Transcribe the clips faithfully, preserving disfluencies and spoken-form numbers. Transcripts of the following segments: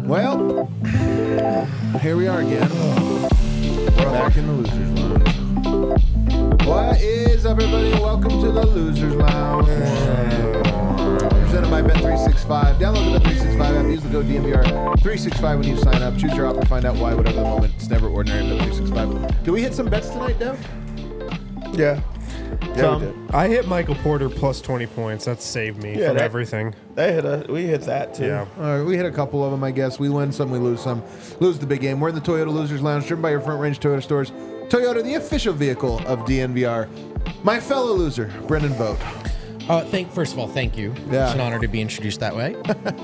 Well, here we are again. We're back in the Losers Lounge. What is up, everybody? Welcome to the Losers Lounge. Presented by Bet three sixty-five. Download the Bet three sixty-five app. Use the code D M V R three sixty-five when you sign up. Choose your offer. Find out why. Whatever the moment. It's never ordinary at Bet three sixty-five. Did we hit some bets tonight, Dev? Yeah. Yeah, we did. I hit Michael Porter plus twenty points. That saved me Yeah, from that- everything. They hit a, we hit that too. Yeah. All right, we hit a couple of them, I guess. We win some, we lose some. Lose the big game. We're in the Toyota Losers Lounge, driven by your Front Range Toyota stores. Toyota, the official vehicle of D N V R. My fellow loser, Brendan Vogt. Uh, thank first of all, thank you. Yeah. It's an honor to be introduced that way.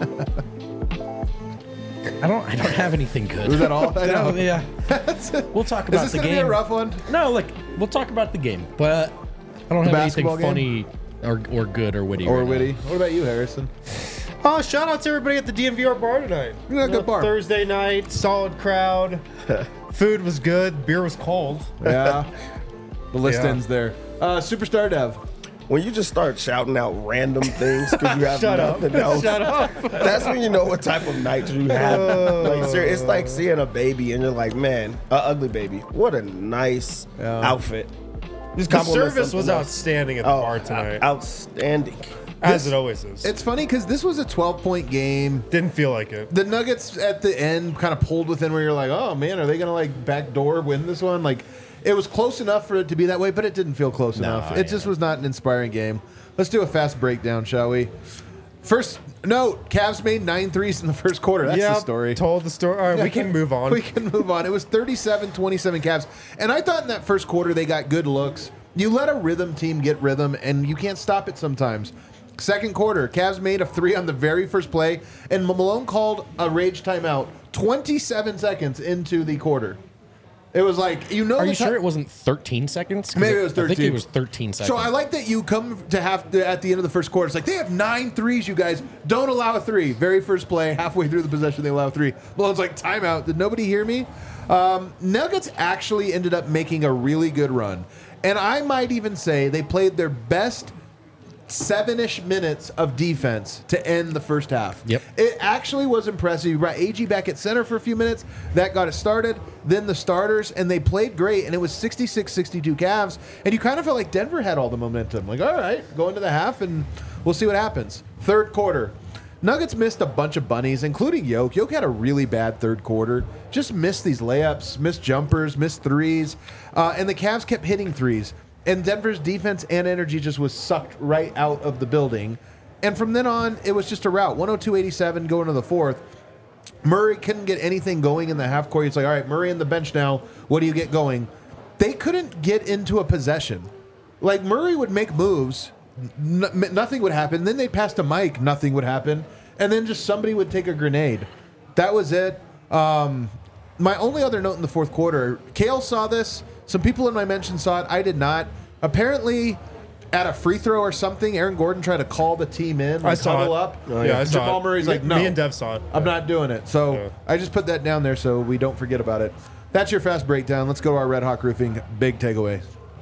I don't. I don't have anything good. Was that all? I know. No, yeah. We'll talk about Is this the going to game. be a rough one? No, like we'll talk about the game, but I don't The have anything basketball funny or, or good or witty. Or right witty? now. What about you, Harrison? Oh, shout out to everybody at the D M V R bar tonight. You got a good bar. Thursday night, solid crowd. Food was good. Beer was cold. Yeah. The list Yeah. ends there. Uh, Superstar Dev. When you just start shouting out random things because you have Shut up. nothing else, Shut up. that's when you know what type of night you have. Like, ser- it's like seeing a baby and you're like, man, an ugly baby. What a nice Yeah. outfit. Just The compliment service was something else. outstanding at the Oh, bar tonight, outstanding. as it always is. It's funny because this was a twelve-point game. Didn't feel like it. The Nuggets at the end kind of pulled within where you're like, oh, man, are they going to, like, backdoor win this one? Like, it was close enough for it to be that way, but it didn't feel close No, enough. yeah. It just was not an inspiring game. Let's do a fast breakdown, shall we? First note, Cavs made nine threes in the first quarter. That's the Yeah, story. Told the story. All right, we can move on. We can move on. It was thirty-seven twenty-seven Cavs. And I thought in that first quarter they got good looks. You let a rhythm team get rhythm, and you can't stop it sometimes. Second quarter, Cavs made a three on the very first play, and Malone called a rage timeout twenty-seven seconds into the quarter. It was like, you know, Are the you ti- sure it wasn't thirteen seconds? 'Cause Maybe it was I think thirteen. it was thirteen seconds. So I like that you come to have to, at the end of the first quarter. It's like they have nine threes. You guys don't allow a three. Very first play, halfway through the possession, they allow a three. Malone's like, timeout. Did nobody hear me? Um, Nuggets actually ended up making a really good run, and I might even say they played their best seven-ish minutes of defense to end the first half. Yep. It actually was impressive. You brought A G back at center for a few minutes. That got it started. Then the starters, and they played great, and it was sixty-six sixty-two Cavs. And you kind of felt like Denver had all the momentum. Like, all right, go into the half, and we'll see what happens. Third quarter. Nuggets missed a bunch of bunnies, including Yoke. Yoke had a really bad third quarter. Just missed these layups, missed jumpers, missed threes. Uh, and the Cavs kept hitting threes. And Denver's defense and energy just was sucked right out of the building. And from then on, it was just a rout. one oh two eighty-seven going to the fourth. Murray couldn't get anything going in the half court. It's like, all right, Murray in the bench now. What do you get going? They couldn't get into a possession. Like, Murray would make moves. N- nothing would happen. Then they'd pass to Mike. Nothing would happen. And then just somebody would take a grenade. That was it. Um, my only other note in the fourth quarter, Kale saw this. Some people in my mention saw it. I did not. Apparently, at a free throw or something, Aaron Gordon tried to call the team in, like I saw huddle it. up. Oh, yeah, I saw Jamal it. Murray's Me- like, no. me and Dev saw it. I'm Yeah. not doing it. So Yeah. I just put that down there so we don't forget about it. That's your fast breakdown. Let's go to our Red Hawk Roofing big takeaway.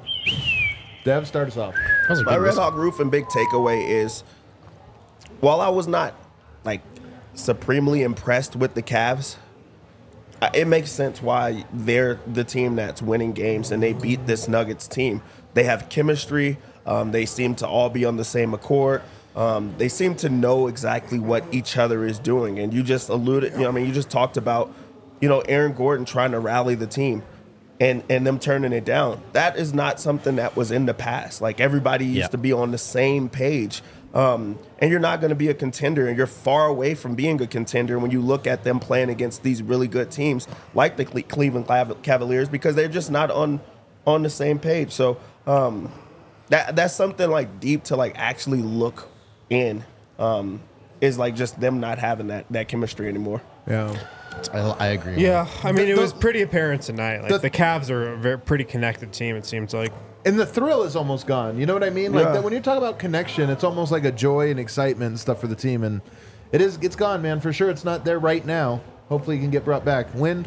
Dev, start us off. That was a My good Red listen. Hawk Roof and big takeaway is, while I was not like supremely impressed with the Cavs, I- it makes sense why they're the team that's winning games and they beat this Nuggets team. They have chemistry. Um, they seem to all be on the same accord. Um, they seem to know exactly what each other is doing. And you just alluded, you know, I mean, you just talked about, you know, Aaron Gordon trying to rally the team. And, and them turning it down. That is not something that was in the past. Like, everybody used Yeah. to be on the same page. Um, and you're not going to be a contender, and you're far away from being a contender when you look at them playing against these really good teams like the Cle- Cleveland Cav- Cavaliers, because they're just not on on the same page. So um, that that's something like deep to like actually look in. Um, is like just them not having that that chemistry anymore. Yeah. I, I agree. Yeah, I mean, The- it the- was pretty apparent tonight. Like the- the, Cavs are a very pretty connected team. It seems like. And the thrill is almost gone. You know what I mean? Like Yeah. that when you talk about connection, it's almost like a joy and excitement and stuff for the team. And it is, it's gone, man. For sure, it's not there right now. Hopefully, it can get brought back. Wind.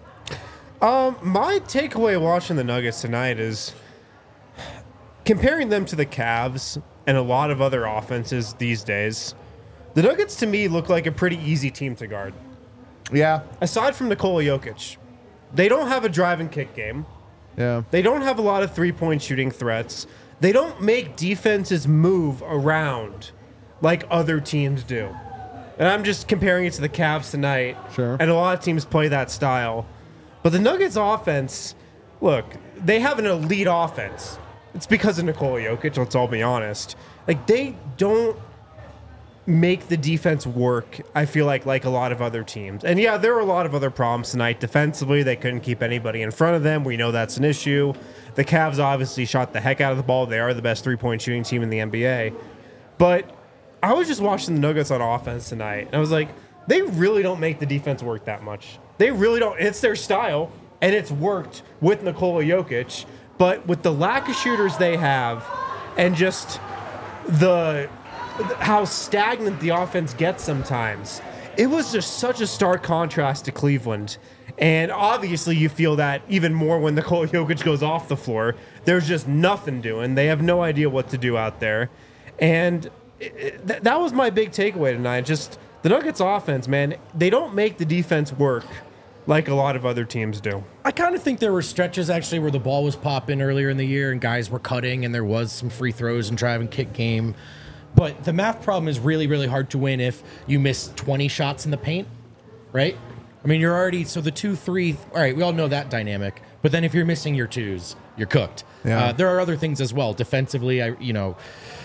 Um, my takeaway watching the Nuggets tonight is comparing them to the Cavs and a lot of other offenses these days. The Nuggets to me look like a pretty easy team to guard. Yeah, aside from Nikola Jokic, they don't have a drive and kick game. yeah. They don't have a lot of three-point shooting threats. They don't make defenses move around like other teams do. And I'm just comparing it to the Cavs tonight. Sure. And a lot of teams play that style. But the Nuggets offense, look, they have an elite offense. It's because of Nikola Jokic, let's all be honest. Like, they don't make the defense work, I feel like, like a lot of other teams. And yeah, there were a lot of other problems tonight. Defensively, they couldn't keep anybody in front of them. We know that's an issue. The Cavs obviously shot the heck out of the ball. They are the best three-point shooting team in the N B A. But I was just watching the Nuggets on offense tonight, and I was like, they really don't make the defense work that much. They really don't. It's their style, and it's worked with Nikola Jokic. But with the lack of shooters they have, and just the how stagnant the offense gets sometimes, it was just such a stark contrast to Cleveland. And obviously you feel that even more when Nikola Jokic goes off the floor. There's just nothing doing. They have no idea what to do out there. And it, it, th- that was my big takeaway tonight. Just the Nuggets offense, man, they don't make the defense work like a lot of other teams do. I kind of think there were stretches actually where the ball was popping earlier in the year and guys were cutting and there was some free throws and drive and kick game. But the math problem is really, really hard to win if you miss twenty shots in the paint, right? I mean, you're already, so the two, three, all right, we all know that dynamic. But then if you're missing your twos, you're cooked. Yeah. Uh, there are other things as well. Defensively, I, you know,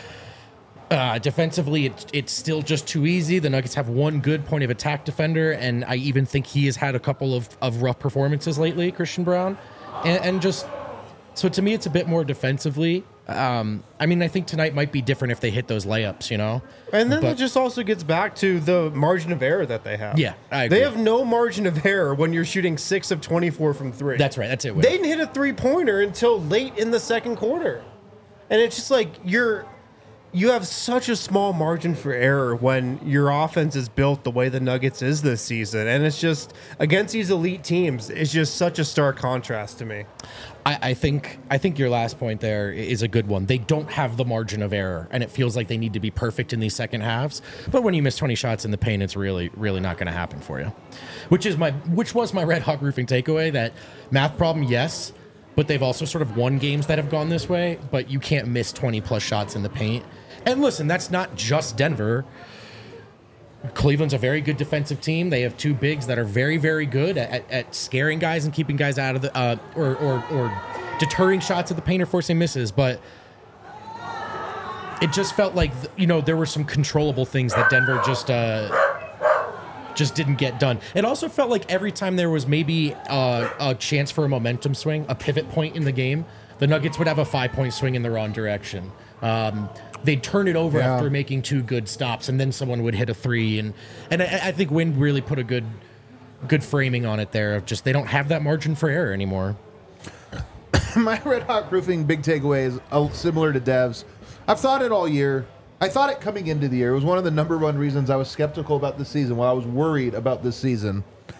uh, defensively, it, it's still just too easy. The Nuggets have one good point of attack defender, and I even think he has had a couple of, of rough performances lately, Christian Brown. And, and just, so to me, it's a bit more defensively. Um, I mean, I think tonight might be different if they hit those layups, you know? And then But- it just also gets back to the margin of error that they have. Yeah, I agree. They have no margin of error when you're shooting six of twenty-four from three. That's right. That's it. They didn't hit a three-pointer until late in the second quarter. And it's just like you're you have such a small margin for error when your offense is built the way the Nuggets is this season. And it's just against these elite teams, it's just such a stark contrast to me. I, I think I think your last point there is a good one. They don't have the margin of error, and it feels like they need to be perfect in these second halves. But when you miss twenty shots in the paint, it's really, really not going to happen for you. Which is my, which was my Red Hawk Roofing takeaway. That math problem, yes, but they've also sort of won games that have gone this way. But you can't miss twenty plus shots in the paint. And listen, that's not just Denver. Cleveland's a very good defensive team. They have two bigs that are very, very good at, at, at scaring guys and keeping guys out of the, uh, or, or, or deterring shots at the paint or forcing misses. But it just felt like, you know, there were some controllable things that Denver just, uh, just didn't get done. It also felt like every time there was maybe uh, a chance for a momentum swing, a pivot point in the game, the Nuggets would have a five-point swing in the wrong direction. Um, they'd turn it over Yeah. after making two good stops, and then someone would hit a three. And and I, I think Wynn really put a good good framing on it there of just they don't have that margin for error anymore. My Red Hawk Roofing big takeaway is uh, similar to Dev's. I've thought it all year. I thought it coming into the year. It was one of the number one reasons I was skeptical about this season, while I was worried about this season.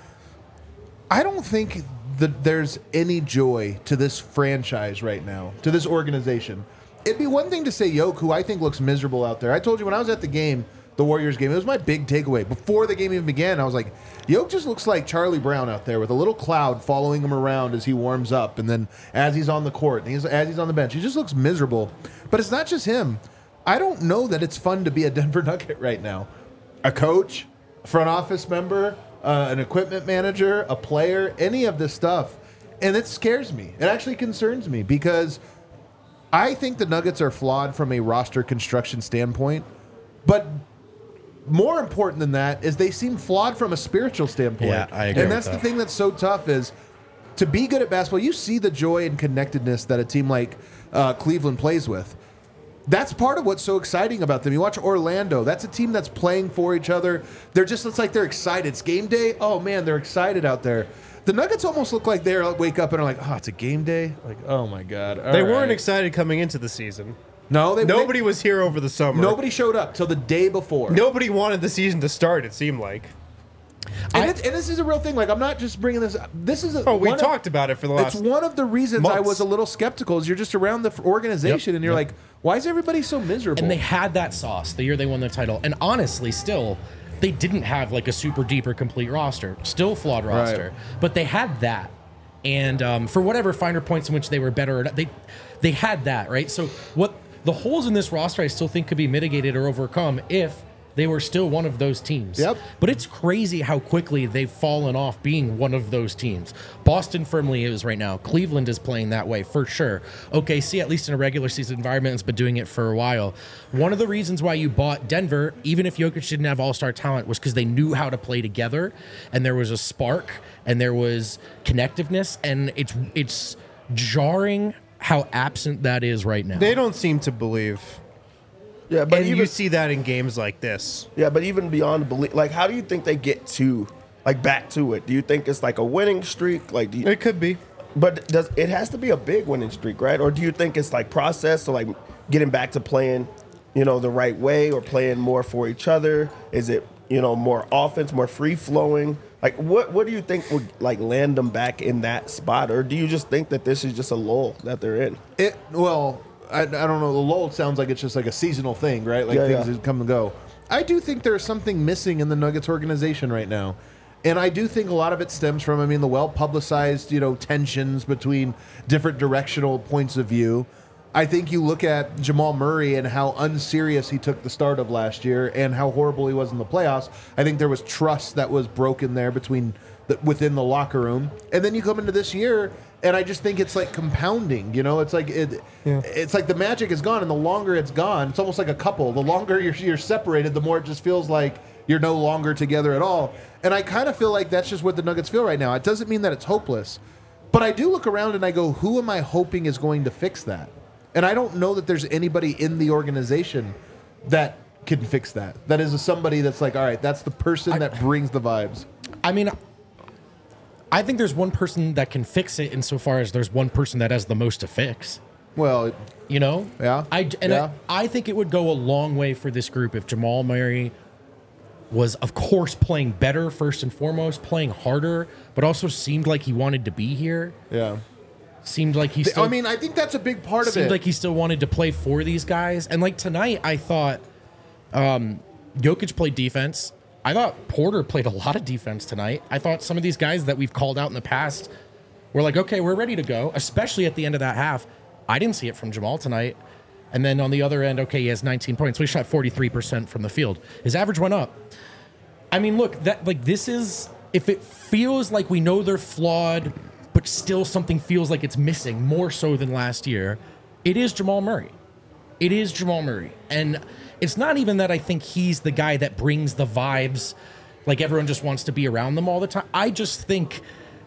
I don't think that there's any joy to this franchise right now, to this organization. It'd be one thing to say Yoke, who I think looks miserable out there. I told you when I was at the game, the Warriors game, it was my big takeaway. Before the game even began, I was like, Yoke just looks like Charlie Brown out there with a little cloud following him around as he warms up, and then as he's on the court, and he's, as he's on the bench. He just looks miserable. But it's not just him. I don't know that it's fun to be a Denver Nugget right now. A coach, a front office member, uh, an equipment manager, a player, any of this stuff. And it scares me. It actually concerns me because I think the Nuggets are flawed from a roster construction standpoint. But more important than that is they seem flawed from a spiritual standpoint. Yeah, I agree And with that's the that. thing that's so tough is to be good at basketball, you see the joy and connectedness that a team like uh, Cleveland plays with. That's part of what's so exciting about them. You watch Orlando. That's a team that's playing for each other. They're just, it's like they're excited. It's game day. Oh, man, they're excited out there. The Nuggets almost look like they wake up and are like, oh, it's a game day? Like, oh, my God. All They weren't right. excited coming into the season. No, they, Nobody they, was here over the summer. nobody showed up till the day before. Nobody wanted the season to start, it seemed like. And, I- it, and this is a real thing. Like, I'm not just bringing this up. This is a, Oh, we one talked of, about it for the last... It's one of the reasons I months. was a little skeptical is you're just around the f- organization Yep, and you're yep. like, why is everybody so miserable? And they had that sauce the year they won the title. And honestly, still, they didn't have like a super deep or complete roster, still flawed roster, Right. but they had that. And um, for whatever finer points in which they were better, or not, they they had that, right? So what the holes in this roster, I still think could be mitigated or overcome if they were still one of those teams. Yep. But it's crazy how quickly they've fallen off being one of those teams. Boston firmly is right now. Cleveland is playing that way for sure. O K C, at least in a regular season environment, has been doing it for a while. One of the reasons why you bought Denver, even if Jokic didn't have all-star talent, was because they knew how to play together, and there was a spark, and there was connectiveness, and it's it's jarring how absent that is right now. They don't seem to believe. Yeah, but And even you see that in games like this. yeah, but even beyond belief, like how do you think they get to like back to it? Do you think it's like a winning streak? Like, do you, It could be. but does it has to be a big winning streak, right? Or do you think it's like process, so like getting back to playing, you know, the right way or playing more for each other? Is it, you know, more offense, more free flowing? Like what what do you think would like land them back in that spot, or do you just think that this is just a lull that they're in? It well, I, I don't know. The lull sounds like it's just like a seasonal thing, right? Like Yeah, things yeah. that come and go. I do think there's something missing in the Nuggets organization right now, and I do think a lot of it stems from, I mean, the well publicized, you know, tensions between different directional points of view. I think you look at Jamal Murray and how unserious he took the start of last year and how horrible he was in the playoffs. I think there was trust that was broken there between the, within the locker room. And then you come into this year, and I just think it's like compounding. You know, it's like it, Yeah. it's like the magic is gone, and the longer it's gone, it's almost like a couple. The longer you're, you're separated, the more it just feels like you're no longer together at all. And I kind of feel like that's just what the Nuggets feel right now. It doesn't mean that it's hopeless, but I do look around and I go, who am I hoping is going to fix that? And I don't know that there's anybody in the organization that can fix that. That is somebody that's like, all right, that's the person that brings the vibes. I mean, I think there's one person that can fix it insofar as there's one person that has the most to fix. Well, You know? Yeah, I, and yeah. I, I think it would go a long way for this group if Jamal Murray was, of course, playing better first and foremost, playing harder, but also seemed like he wanted to be here. yeah. Seemed like he still. I mean, I think that's a big part of seemed it. like he still wanted to play for these guys. And like tonight, I thought um, Jokic played defense. I thought Porter played a lot of defense tonight. I thought some of these guys that we've called out in the past were like, okay, we're ready to go, especially at the end of that half. I didn't see it from Jamal tonight. And then on the other end, okay, he has nineteen points. So he shot forty-three percent from the field. His average went up. I mean, look, that like this is, if it feels like we know they're flawed, but still something feels like it's missing more so than last year, it is Jamal Murray. It is Jamal Murray. And it's not even that I think he's the guy that brings the vibes, like everyone just wants to be around them all the time. I just think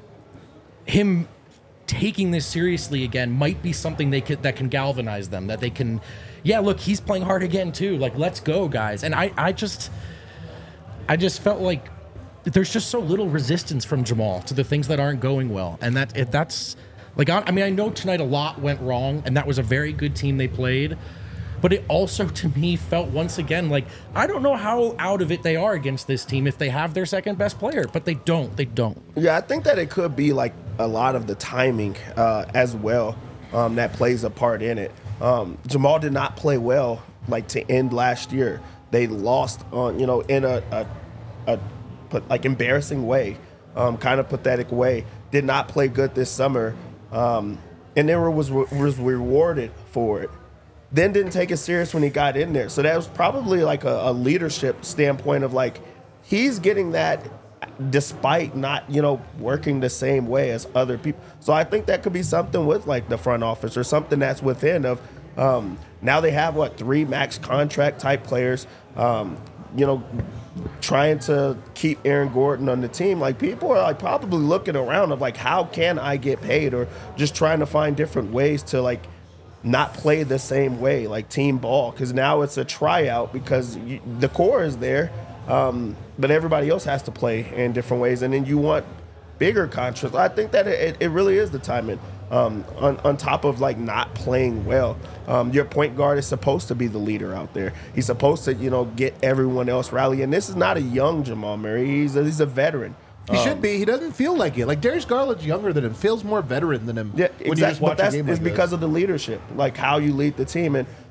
him taking this seriously again might be something they could that can galvanize them, that they can, yeah, look, he's playing hard again too. Like, let's go, guys. And I, I just I just felt like there's just so little resistance from Jamal to the things that aren't going well. And that it, that's like, I, I mean, I know tonight a lot went wrong, and that was a very good team they played. But it also, to me, felt once again like, I don't know how out of it they are against this team if they have their second best player, but they don't. They don't. Yeah, I think that it could be like a lot of the timing uh, as well um, that plays a part in it. Um, Jamal did not play well like to end last year. They lost on, you know, in a, a, a but like embarrassing way, um, kind of pathetic way. Did not play good this summer, um, and then was was rewarded for it. Then didn't take it serious when he got in there. So that was probably like a, a leadership standpoint of like he's getting that despite not, you know, working the same way as other people. So I think that could be something with like the front office or something that's within of um, now they have what three max contract type players. Um, you know, trying to keep Aaron Gordon on the team. Like people are like probably looking around of like how can I get paid, or just trying to find different ways to like not play the same way, like team ball, because now it's a tryout because you, the core is there, um, but everybody else has to play in different ways, and then you want bigger contracts. I think that it, it really is the timing. Um, on, on top of like not playing well, um, your point guard is supposed to be the leader out there. He's supposed to, you know, get everyone else rally. And this is not a young Jamal Murray. He's a, he's a veteran. He Um, should be. He doesn't feel like it. Like Darius Garland's younger than him, feels more veteran than him. Yeah, when you exactly. just watch But that's a game it's like because this. of the leadership, like how you lead the team. And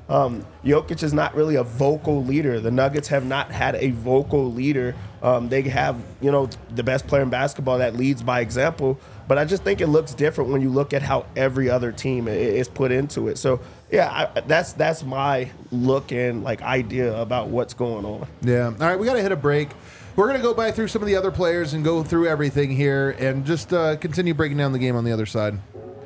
Um, Jokic is not really a vocal leader. The Nuggets have not had a vocal leader. Um, they have, you know, the best player in basketball that leads by example. But I just think it looks different when you look at how every other team is put into it. So, yeah, I, that's that's my look and, like, idea about what's going on. Yeah. All right, we got to hit a break. We're going to go by through some of the other players and go through everything here and just uh, continue breaking down the game on the other side.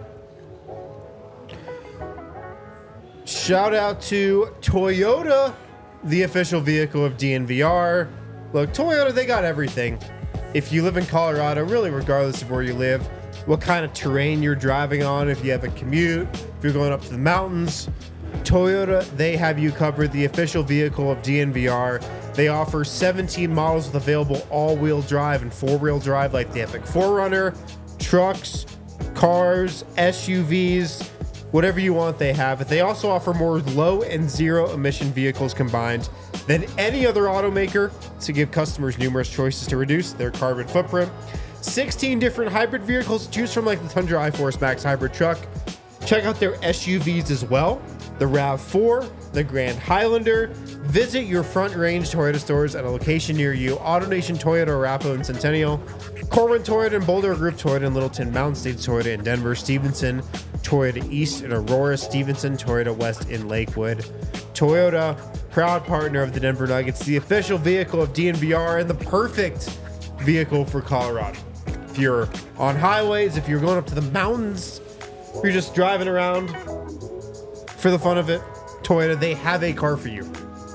Shout out to Toyota, the official vehicle of D N V R. Look, Toyota, they got everything. If you live in Colorado, really regardless of where you live, what kind of terrain you're driving on, if you have a commute, if you're going up to the mountains, Toyota, they have you covered, the official vehicle of D N V R. They offer seventeen models with available all-wheel drive and four-wheel drive like the Epic four runner, trucks, cars, S U Vs, whatever you want, they have it. They also offer more low and zero emission vehicles combined than any other automaker to give customers numerous choices to reduce their carbon footprint. sixteen different hybrid vehicles to choose from, like the Tundra iForce Max hybrid truck. Check out their S U Vs as well, the RAV four, the Grand Highlander. Visit your Front Range Toyota stores at a location near you. AutoNation Toyota, Arapahoe and Centennial. Corwin Toyota and Boulder Group Toyota in Littleton. Mountain States Toyota in Denver. Stevenson Toyota East in Aurora. Stevenson Toyota West in Lakewood. Toyota, proud partner of the Denver Nuggets, the official vehicle of D N V R and the perfect vehicle for Colorado. If you're on highways, if you're going up to the mountains, if you're just driving around for the fun of it, Toyota, they have a car for you.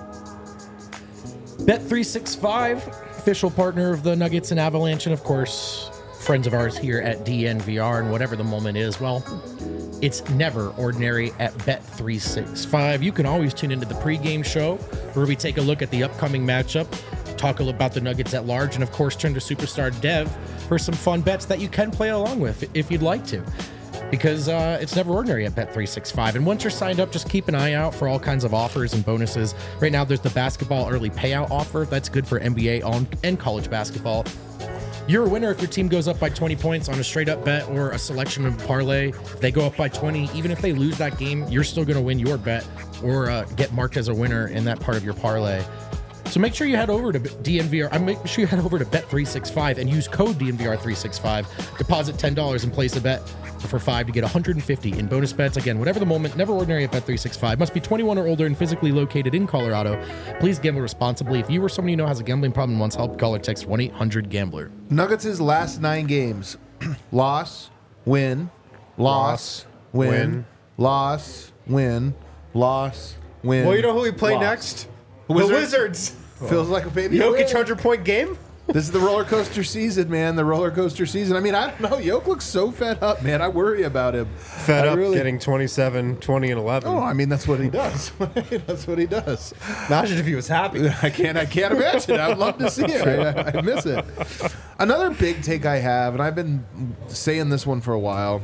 Bet three sixty-five, official partner of the Nuggets and Avalanche, and of course, friends of ours here at D N V R, and whatever the moment is, well, it's never ordinary at Bet three sixty-five. You can always tune into the pregame show where we take a look at the upcoming matchup, talk about the Nuggets at large, and of course, turn to Superstar Dev for some fun bets that you can play along with if you'd like to. Because uh, it's never ordinary at Bet three sixty-five. And once you're signed up, just keep an eye out for all kinds of offers and bonuses. Right now, there's the basketball early payout offer. That's good for N B A and college basketball. You're a winner if your team goes up by twenty points on a straight-up bet or a selection of parlay. If they go up by twenty, even if they lose that game, you're still going to win your bet or uh, get marked as a winner in that part of your parlay. So make sure you head over to D N V R. I make sure you head over to Bet three sixty-five and use code D N V R three sixty-five. Deposit ten dollars and place a bet for five to get one hundred fifty in bonus bets. Again, whatever the moment, never ordinary at Bet three sixty-five. Must be twenty-one or older and physically located in Colorado. Please gamble responsibly. If you or someone you know has a gambling problem and wants help, call or text one eight hundred gambler. Nuggets' last nine games. Loss, win, loss, win, win. loss, win, loss, win. Well, you know who we play loss. next? Wizards? The Wizards. Feels like a baby. Jokic win. hundred-point game? This is the roller coaster season, man. The roller coaster season. I mean, I don't know. Yoke looks so fed up, man. I worry about him. Fed I up really- getting twenty-seven, twenty, and eleven. Oh, I mean, that's what he does. That's what he does. Imagine if he was happy. I can't. I can't imagine. I'd love to see it. I, I miss it. Another big take I have, and I've been saying this one for a while.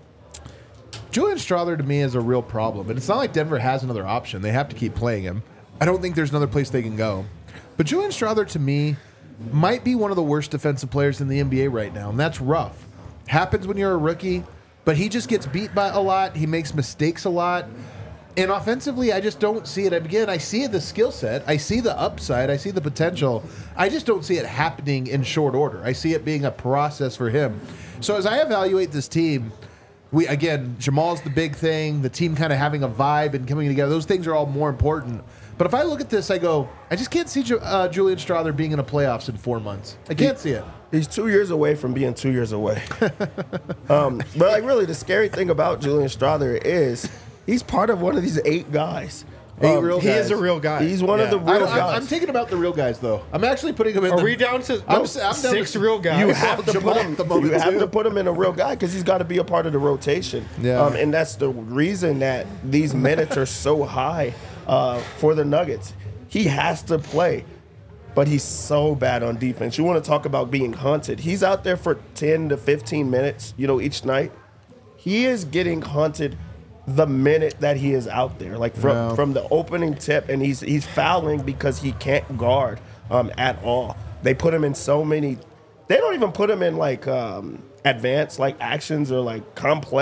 Julian Strawther to me is a real problem, and it's not like Denver has another option. They have to keep playing him. I don't think there's another place they can go. But Julian Strawther to me might be one of the worst defensive players in the N B A right now, and that's rough. Happens when you're a rookie, but he just gets beat by a lot. He makes mistakes a lot. And offensively, I just don't see it. Again, I see the skill set. I see the upside. I see the potential. I just don't see it happening in short order. I see it being a process for him. So as I evaluate this team, we again, Jamal's the big thing, the team kind of having a vibe and coming together. Those things are all more important. But if I look at this, I go, I just can't see Ju- uh, Julian Strawther being in the playoffs in four months. I can't see it. He's two years away from being two years away. um, but like really, the scary thing about Julian Strawther is he's part of one of these eight guys. Eight real He guys. is a real guy. He's one of Yeah. the I real don't- I'm, guys. I'm taking about the real guys, though. I'm actually putting him in Are the... we down to I'm no, s- I'm down six to- real guys? You have to Jamal put at him. the moment, You have too. to put him in a real guy because he's got to be a part of the rotation. Yeah. Um, and that's the reason that these minutes are so high uh, for the Nuggets. He has to play, but he's so bad on defense. You want to talk about being hunted? He's out there for ten to fifteen minutes, you know, each night. He is getting hunted the minute that he is out there, like from Yeah. from the opening tip, and he's he's fouling because he can't guard um, at all. They put him in so many. They don't even put him in like um, advanced like actions or like complex.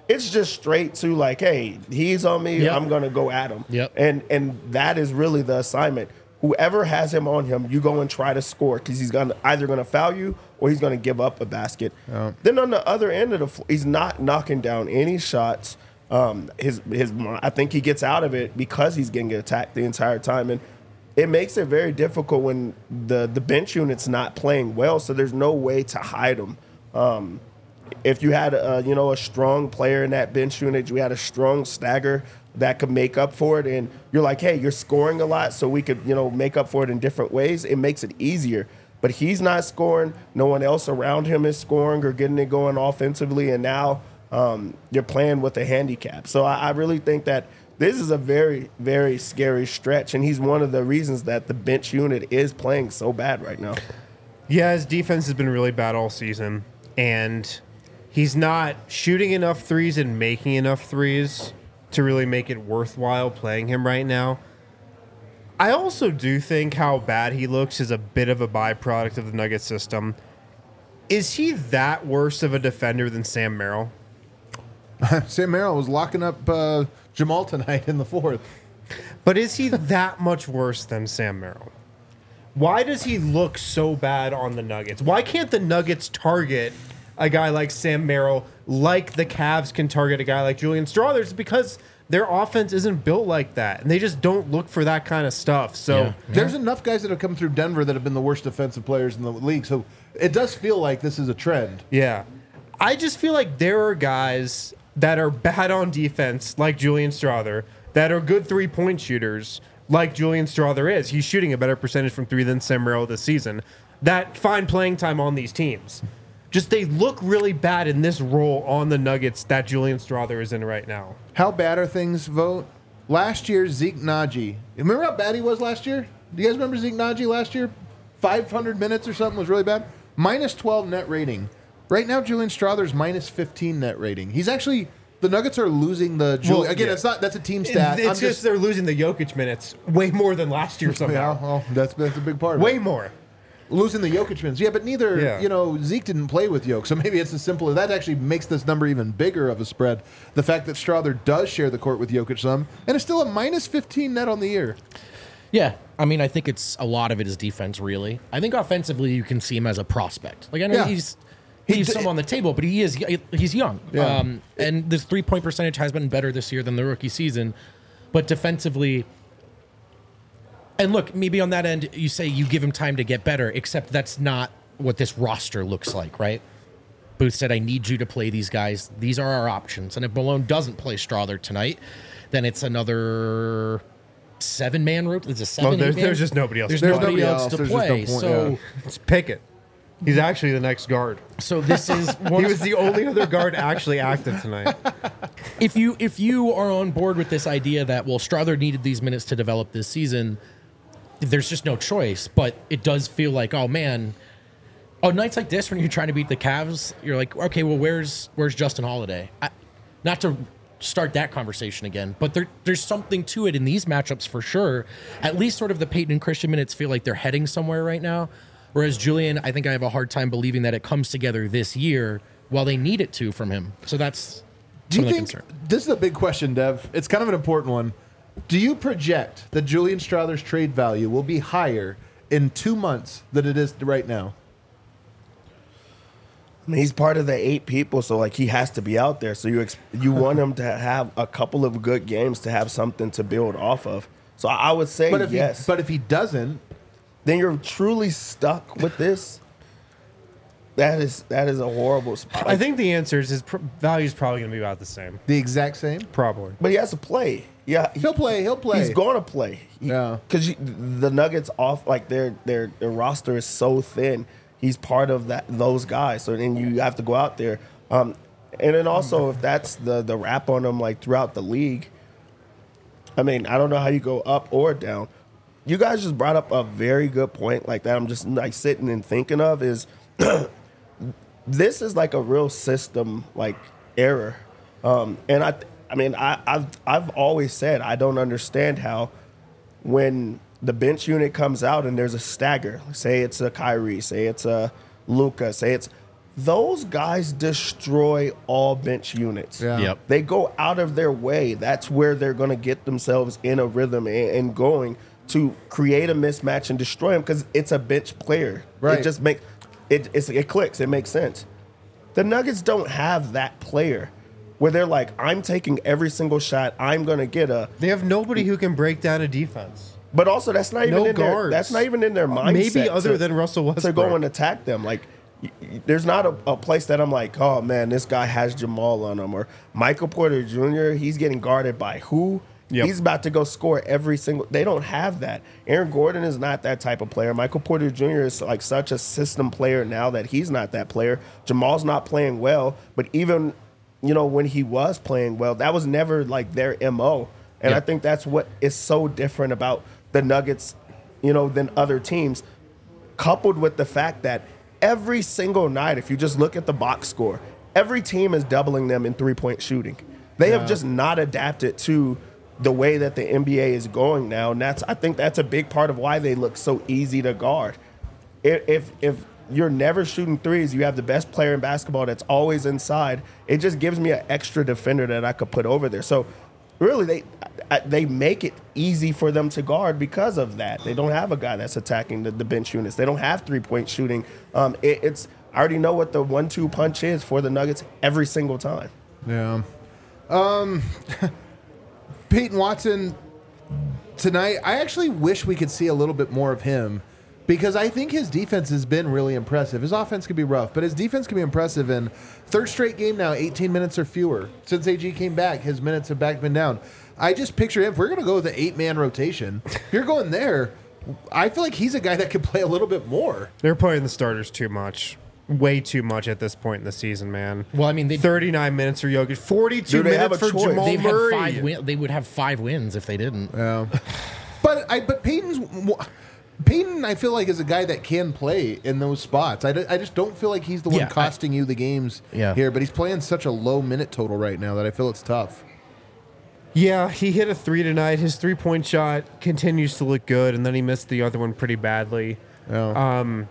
it's just straight to like, hey, he's on me, Yep. I'm gonna go at him. Yep. And and that is really the assignment. Whoever has him on him, you go and try to score because he's gonna either gonna foul you or he's gonna give up a basket. Then on the other end of the floor, he's not knocking down any shots. Um, his his I think he gets out of it because he's getting attacked the entire time, and it makes it very difficult when the the bench unit's not playing well. So there's no way to hide him. Um, if you had a you know a strong player in that bench unit, you had a strong stagger that could make up for it, and you're like, hey, you're scoring a lot, so we could you know make up for it in different ways. It makes it easier. But he's not scoring. No one else around him is scoring or getting it going offensively, and now um, you're playing with a handicap. So I, I really think that this is a very, very scary stretch, and he's one of the reasons that the bench unit is playing so bad right now. Yeah, his defense has been really bad all season, and he's not shooting enough threes and making enough threes to really make it worthwhile playing him right now. I also do think how bad he looks is a bit of a byproduct of the Nuggets system. Is he that worse of a defender than Sam Merrill? Sam Merrill was locking up uh, Jamal tonight in the fourth. But is he that much worse than Sam Merrill? Why does he look so bad on the Nuggets? Why can't the Nuggets target a guy like Sam Merrill like the Cavs can target a guy like Julian Strawther? It's because their offense isn't built like that, and they just don't look for that kind of stuff. So Yeah. There's enough guys that have come through Denver that have been the worst defensive players in the league. So it does feel like this is a trend. yeah, I just feel like there are guys that are bad on defense, like Julian Strawther, that are good three-point shooters, like Julian Strawther is. He's shooting a better percentage from three than Sam Merrill this season. That find playing time on these teams. Just they look really bad in this role on the Nuggets that Julian Strawther is in right now. How bad are things, Vote? Last year, Zeke Naji. Remember how bad he was last year? Do you guys remember Zeke Naji last year? five hundred minutes or something was really bad. Minus twelve net rating. Right now, Julian Strawther's minus fifteen net rating. He's actually, the Nuggets are losing the, Jul- Well, again, yeah. it's not, that's a team stat. It's I'm just, they're losing the Jokic minutes way more than last year yeah, somehow. well, that's, that's a big part of Way it. more. Losing the Jokic minutes. Yeah, but neither, Yeah. you know, Zeke didn't play with Jokic, so maybe it's as simple as that actually makes this number even bigger of a spread. The fact that Strawther does share the court with Jokic some, and it's still a minus fifteen net on the year. Yeah, I mean, I think it's a lot of it is defense. Really, I think offensively you can see him as a prospect. Like I know Yeah. he's He he's d- some on the table, but he is he's young. Yeah. Um, and this three point percentage has been better this year than the rookie season, but defensively. And look, maybe on that end, you say you give him time to get better, except that's not what this roster looks like, right? Booth said, I need you to play these guys. These are our options. And if Malone doesn't play Strawther tonight, then it's another seven-man route. It's a seven Well, there's, eight-man? there's just nobody else. There's to There's play. nobody nobody else else. to There's just no play. point, so, yeah. It's Pickett. He's actually the next guard. so this is one He of- was the only other guard actually active tonight. if you if you are on board with this idea that well Strawther needed these minutes to develop this season, there's just no choice. But it does feel like oh man, on nights like this when you're trying to beat the Cavs, you're like okay, well where's where's Justin Holiday? I, not to start that conversation again, but there there's something to it in these matchups for sure. At least sort of the Peyton and Christian minutes feel like they're heading somewhere right now. Whereas Julian, I think I have a hard time believing that it comes together this year while they need it to from him. So that's Do you some of the think, concern. this is a big question, Dev. It's kind of an important one. Do you project that Julian Strawther's trade value will be higher in two months than it is right now? I mean, he's part of the eight people, so like he has to be out there. So you ex- you want him to have a couple of good games to have something to build off of. So I would say But if yes. he, but if he doesn't, then you're truly stuck with this. That is that is a horrible spot. I think the answer is his pr- value is probably going to be about the same. the exact same, Probably. but he has to play. Yeah, he- he'll play. He'll play. He's going to play. Yeah. because the Nuggets off like their their their roster is so thin. He's part of that those guys. So then you have to go out there. Um, and then also if that's the the rap on him like throughout the league. I mean, I don't know how you go up or down. You guys just brought up a very good point like that. I'm just like sitting and thinking of is this is like a real system like error. Um, and I I mean I, I've I've always said I don't understand how when the bench unit comes out and there's a stagger, say it's a Kyrie, say it's a Luka, say it's those guys destroy all bench units. Yeah. Yep. They go out of their way. That's where they're going to get themselves in a rhythm and, and going to create a mismatch and destroy them because it's a bench player. Right. It just makes it, it's, it clicks. It makes sense. The Nuggets don't have that player where they're like, I'm taking every single shot. I'm going to get a. They have nobody who can break down a defense. But also, that's not even No in their. guards. That's not even in their mindset. Maybe other to- than Russell Westbrook. to go and attack them. Like, y- y- there's not a, a place that I'm like, oh man, this guy has Jamal on him, or Michael Porter Junior He's getting guarded by who? Yep. He's about to go score every single. They don't have that. Aaron Gordon is not that type of player. Michael Porter Junior is like such a system player now that he's not that player. Jamal's not playing well, but even you know when he was playing well, that was never like their M O. And Yeah. I think that's what is so different about the Nuggets, you know, than other teams, coupled with the fact that every single night, if you just look at the box score, every team is doubling them in three-point shooting. They have just not adapted to the way that the N B A is going now, and that's I think that's a big part of why they look so easy to guard. If if, if you're never shooting threes, you have the best player in basketball that's always inside. It just gives me an extra defender that I could put over there. So really, they they make it easy for them to guard because of that. They don't have a guy that's attacking the, the bench units. They don't have three-point shooting. Um, it, it's I already know what the one two punch is for the Nuggets every single time. Yeah. Um, Peyton Watson tonight, I actually wish we could see a little bit more of him because I think his defense has been really impressive. His offense can be rough, but his defense can be impressive. And third straight game now, eighteen minutes or fewer. Since A G came back, his minutes have back been down. I just picture him, if we're going to go with the eight-man rotation, if you're going there, I feel like he's a guy that could play a little bit more. They're playing the starters too much. Way too much at this point in the season, man. Well, I mean, they thirty-nine minutes for Jokic, forty-two Do they have minutes a for choice? Jamal they've had Murray. five win- They would have five wins if they didn't. Yeah. But I but Peyton's Peyton I feel like is a guy that can play in those spots. I, d- I just don't feel like he's the one Yeah, I- costing you the games Yeah. here, but he's playing such a low minute total right now that I feel it's tough. Yeah, he hit a three tonight. His three-point shot continues to look good, and then he missed the other one pretty badly. Yeah. Um,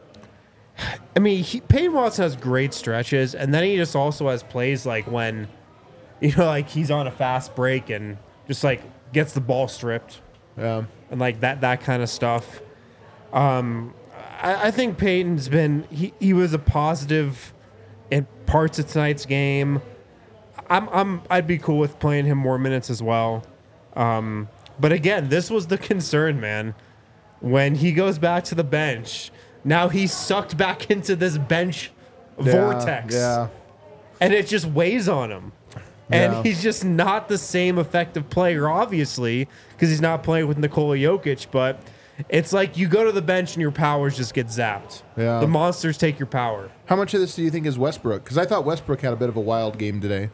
I mean, he, Peyton Watson has great stretches, and then he just also has plays like when, you know, like he's on a fast break and just like gets the ball stripped yeah. and like that that kind of stuff. Um, I, I think Peyton's been he, he was a positive in parts of tonight's game. I'm I'm I'd be cool with playing him more minutes as well. Um, but again, this was the concern, man. When he goes back to the bench, now he's sucked back into this bench vortex. Yeah. And it just weighs on him. And Yeah. he's just not the same effective player, obviously, because he's not playing with Nikola Jokic. But it's like you go to the bench and your powers just get zapped. Yeah. The monsters take your power. How much of this do you think is Westbrook? Because I thought Westbrook had a bit of a wild game today.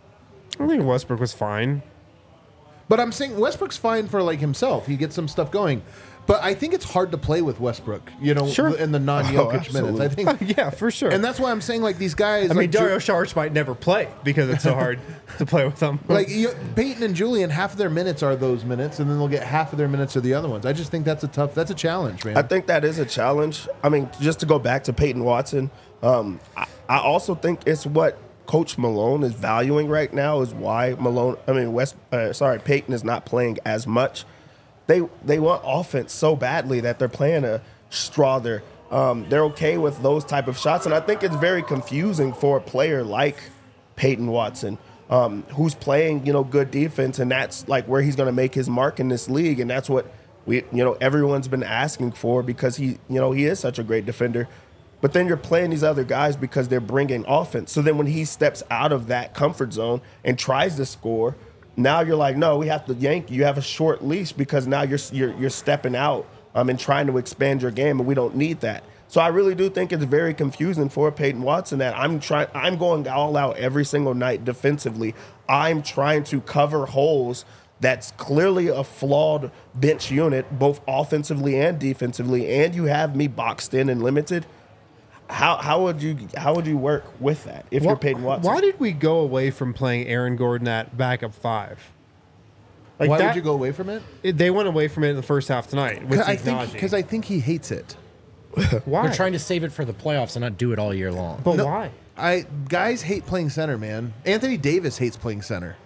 I think Westbrook was fine. But I'm saying Westbrook's fine for like himself. He gets some stuff going. But I think it's hard to play with Westbrook, you know, Sure. in the non-Jokic Oh, minutes. absolutely. I think, Yeah, for sure. and that's why I'm saying like these guys. I mean, like, Ju- Dario Saric might never play because it's so hard to play with them. Like you, Peyton and Julian, half of their minutes are those minutes, and then they'll get half of their minutes are the other ones. I just think that's a tough, that's a challenge, man. I think that is a challenge. I mean, just to go back to Peyton Watson, um, I, I also think it's what Coach Malone is valuing right now is why Malone, I mean, West, uh, sorry, Peyton is not playing as much. They they want offense so badly that they're playing a Strother. Um, they're okay with those type of shots, and I think it's very confusing for a player like Peyton Watson, um, who's playing you know good defense, and that's like where he's going to make his mark in this league, and that's what we you know everyone's been asking for because he you know he is such a great defender. But then you're playing these other guys because they're bringing offense. So then when he steps out of that comfort zone and tries to score, now you're like, no, we have to yank you. You have a short leash because now you're you're, you're stepping out um, and trying to expand your game, and we don't need that. So I really do think it's very confusing for Peyton Watson that I'm trying. I'm going all out every single night defensively. I'm trying to cover holes. That's clearly a flawed bench unit, both offensively and defensively, and you have me boxed in and limited. How how would you how would you work with that if you're Peyton Watson? Why did we go away from playing Aaron Gordon at backup five? Like Why that- would you go away from it? it- They went away from it in the first half tonight with I think Ignazi. because I think he hates it. Why? They're trying to save it for the playoffs and not do it all year long. But No. why? I guys hate playing center, man. Anthony Davis hates playing center.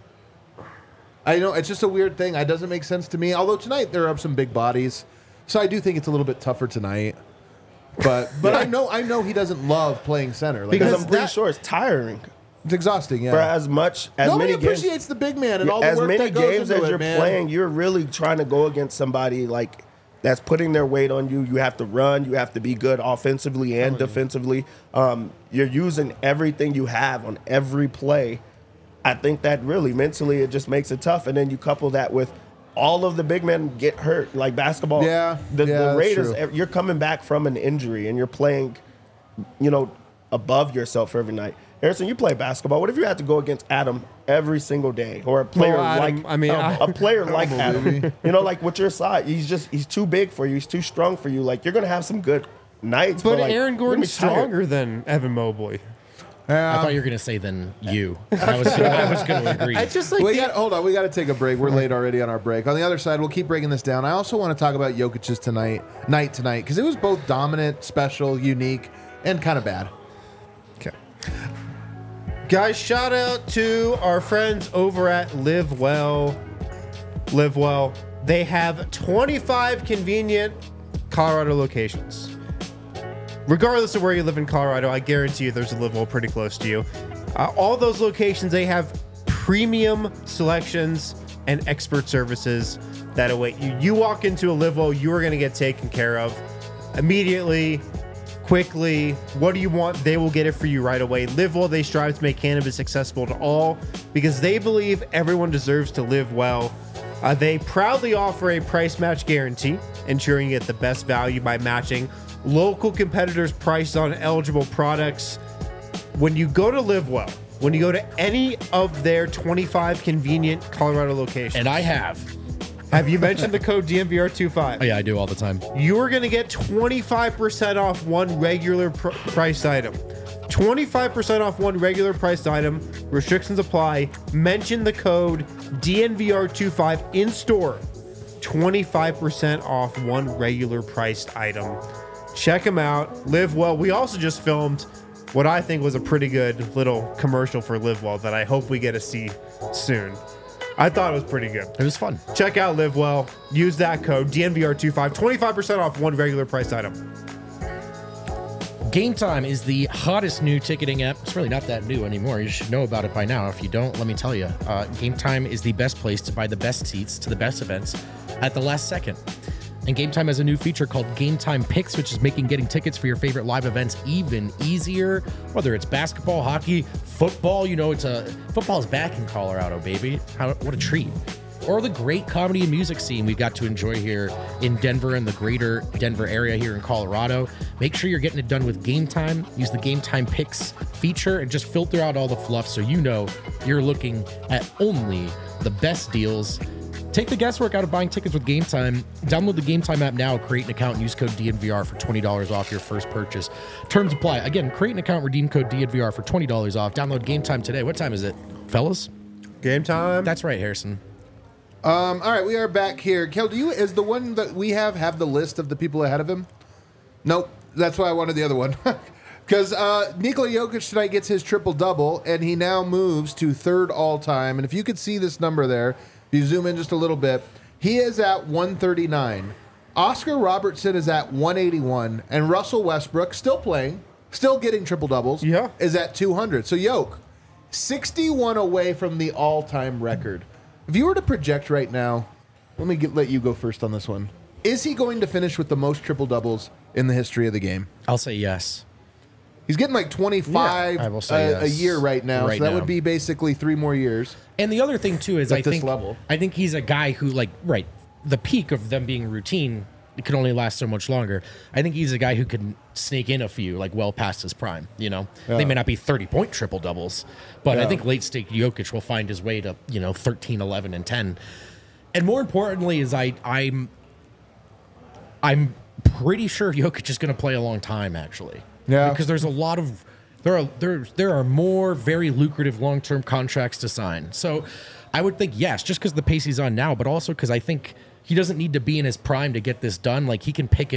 I know it's just a weird thing. It doesn't make sense to me. Although tonight there are some big bodies, so I do think it's a little bit tougher tonight. But but I know I know he doesn't love playing center. Like, Because that's- I'm pretty that- sure it's tiring. it's exhausting. Yeah. For as much as Nobody many games, appreciates the big man and all the as work many that goes games into as it, you're man. playing, you're really trying to go against somebody like that's putting their weight on you. You have to run. You have to be good offensively and defensively. Um, you're using everything you have on every play. I think that really mentally it just makes it tough. And then you couple that with all of the big men get hurt, like basketball. Yeah, the, yeah, the that's Raiders. true. You're coming back from an injury and you're playing, you know, above yourself every night. Harrison, you play basketball. What if you had to go against Adam every single day, or a player Well, Adam, like I mean, a, I- a player like Come on, Adam? baby. You know, like with your side, he's just he's too big for you. He's too strong for you. Like you're gonna have some good nights, but, But like, Aaron you're gonna be Gordon's tired. stronger than Evan Mobley. I thought you were going to say then you. I was gonna, I was going to agree. I just like We the- got, hold on, we got to take a break. We're late already on our break. On the other side, we'll keep breaking this down. I also want to talk about Jokic's tonight, night tonight, because it was both dominant, special, unique, and kind of bad. Okay. Guys, shout out to our friends over at Live Well. Live Well. They have twenty-five convenient Colorado locations. Regardless of where you live in Colorado, I guarantee you there's a Live Well pretty close to you. Uh, all those locations, they have premium selections and expert services that await you. You walk into a Live Well, you are going to get taken care of immediately, quickly. What do you want? They will get it for you right away. Live Well, they strive to make cannabis accessible to all because they believe everyone deserves to live well. Uh, they proudly offer a price match guarantee, ensuring you get the best value by matching local competitors' prices on eligible products. When you go to Live Well, when you go to any of their twenty-five convenient Colorado locations, and I have. have you mentioned the code D M V R twenty-five? Oh, yeah, I do all the time. You are going to get twenty-five percent off one regular pr- priced item. twenty-five percent off one regular priced item. Restrictions apply. Mention the code D N V R twenty-five in store. twenty-five percent off one regular priced item. Check them out. Live Well. We also just filmed what I think was a pretty good little commercial for Live Well that I hope we get to see soon. I thought it was pretty good. It was fun. Check out Live Well. Use that code D N V R twenty-five. twenty-five percent off one regular priced item. Game Time is the hottest new ticketing app. It's really not that new anymore. You should know about it by now. If you don't, let me tell you. Uh, Game Time is the best place to buy the best seats to the best events at the last second. And Game Time has a new feature called Game Time Picks, which is making getting tickets for your favorite live events even easier. Whether it's basketball, hockey, football, you know, it's a football is back in Colorado, baby. How, what a treat. Or the great comedy and music scene we've got to enjoy here in Denver and the greater Denver area here in Colorado. Make sure you're getting it done with Game Time. Use the Game Time Picks feature and just filter out all the fluff so you know you're looking at only the best deals. Take the guesswork out of buying tickets with Game Time. Download the Game Time app now, create an account, and use code D N V R for twenty dollars off your first purchase. Terms apply. Again, create an account, redeem code D N V R for twenty dollars off. Download Game Time today. What time is it, fellas? Game time. That's right, Harrison. Um, all right, we are back here. Kel, do you is the one that we have have the list of the people ahead of him? Nope. That's why I wanted the other one. Because uh, Nikola Jokic tonight gets his triple double, and he now moves to third all time. And if you could see this number there, if you zoom in just a little bit, he is at one thirty-nine. Oscar Robertson is at one eighty-one, and Russell Westbrook, still playing, still getting triple doubles, Yeah. is at two hundred. So Yoke, sixty-one away from the all-time record. If you were to project right now, let me get, let you go first on this one. Is he going to finish with the most triple doubles in the history of the game? I'll say yes. He's getting like twenty-five Yeah, I will say a, a yes. year right now, Right so that now. would be basically three more years. And the other thing too is At I this think level. I think he's a guy who like right the peak of them being routine it can only last so much longer. I think he's a guy who can sneak in a few like well past his prime. You know, Yeah. they may not be thirty point triple doubles, but I Yeah. think late stage Jokic will find his way to you know thirteen, eleven, and ten. And more importantly, is I I'm I'm pretty sure Jokic is going to play a long time actually. Yeah. because there's a lot of there are there there are more very lucrative long term contracts to sign. So I would think yes, just because the pace he's on now, but also because I think he doesn't need to be in his prime to get this done. Like he can pick it up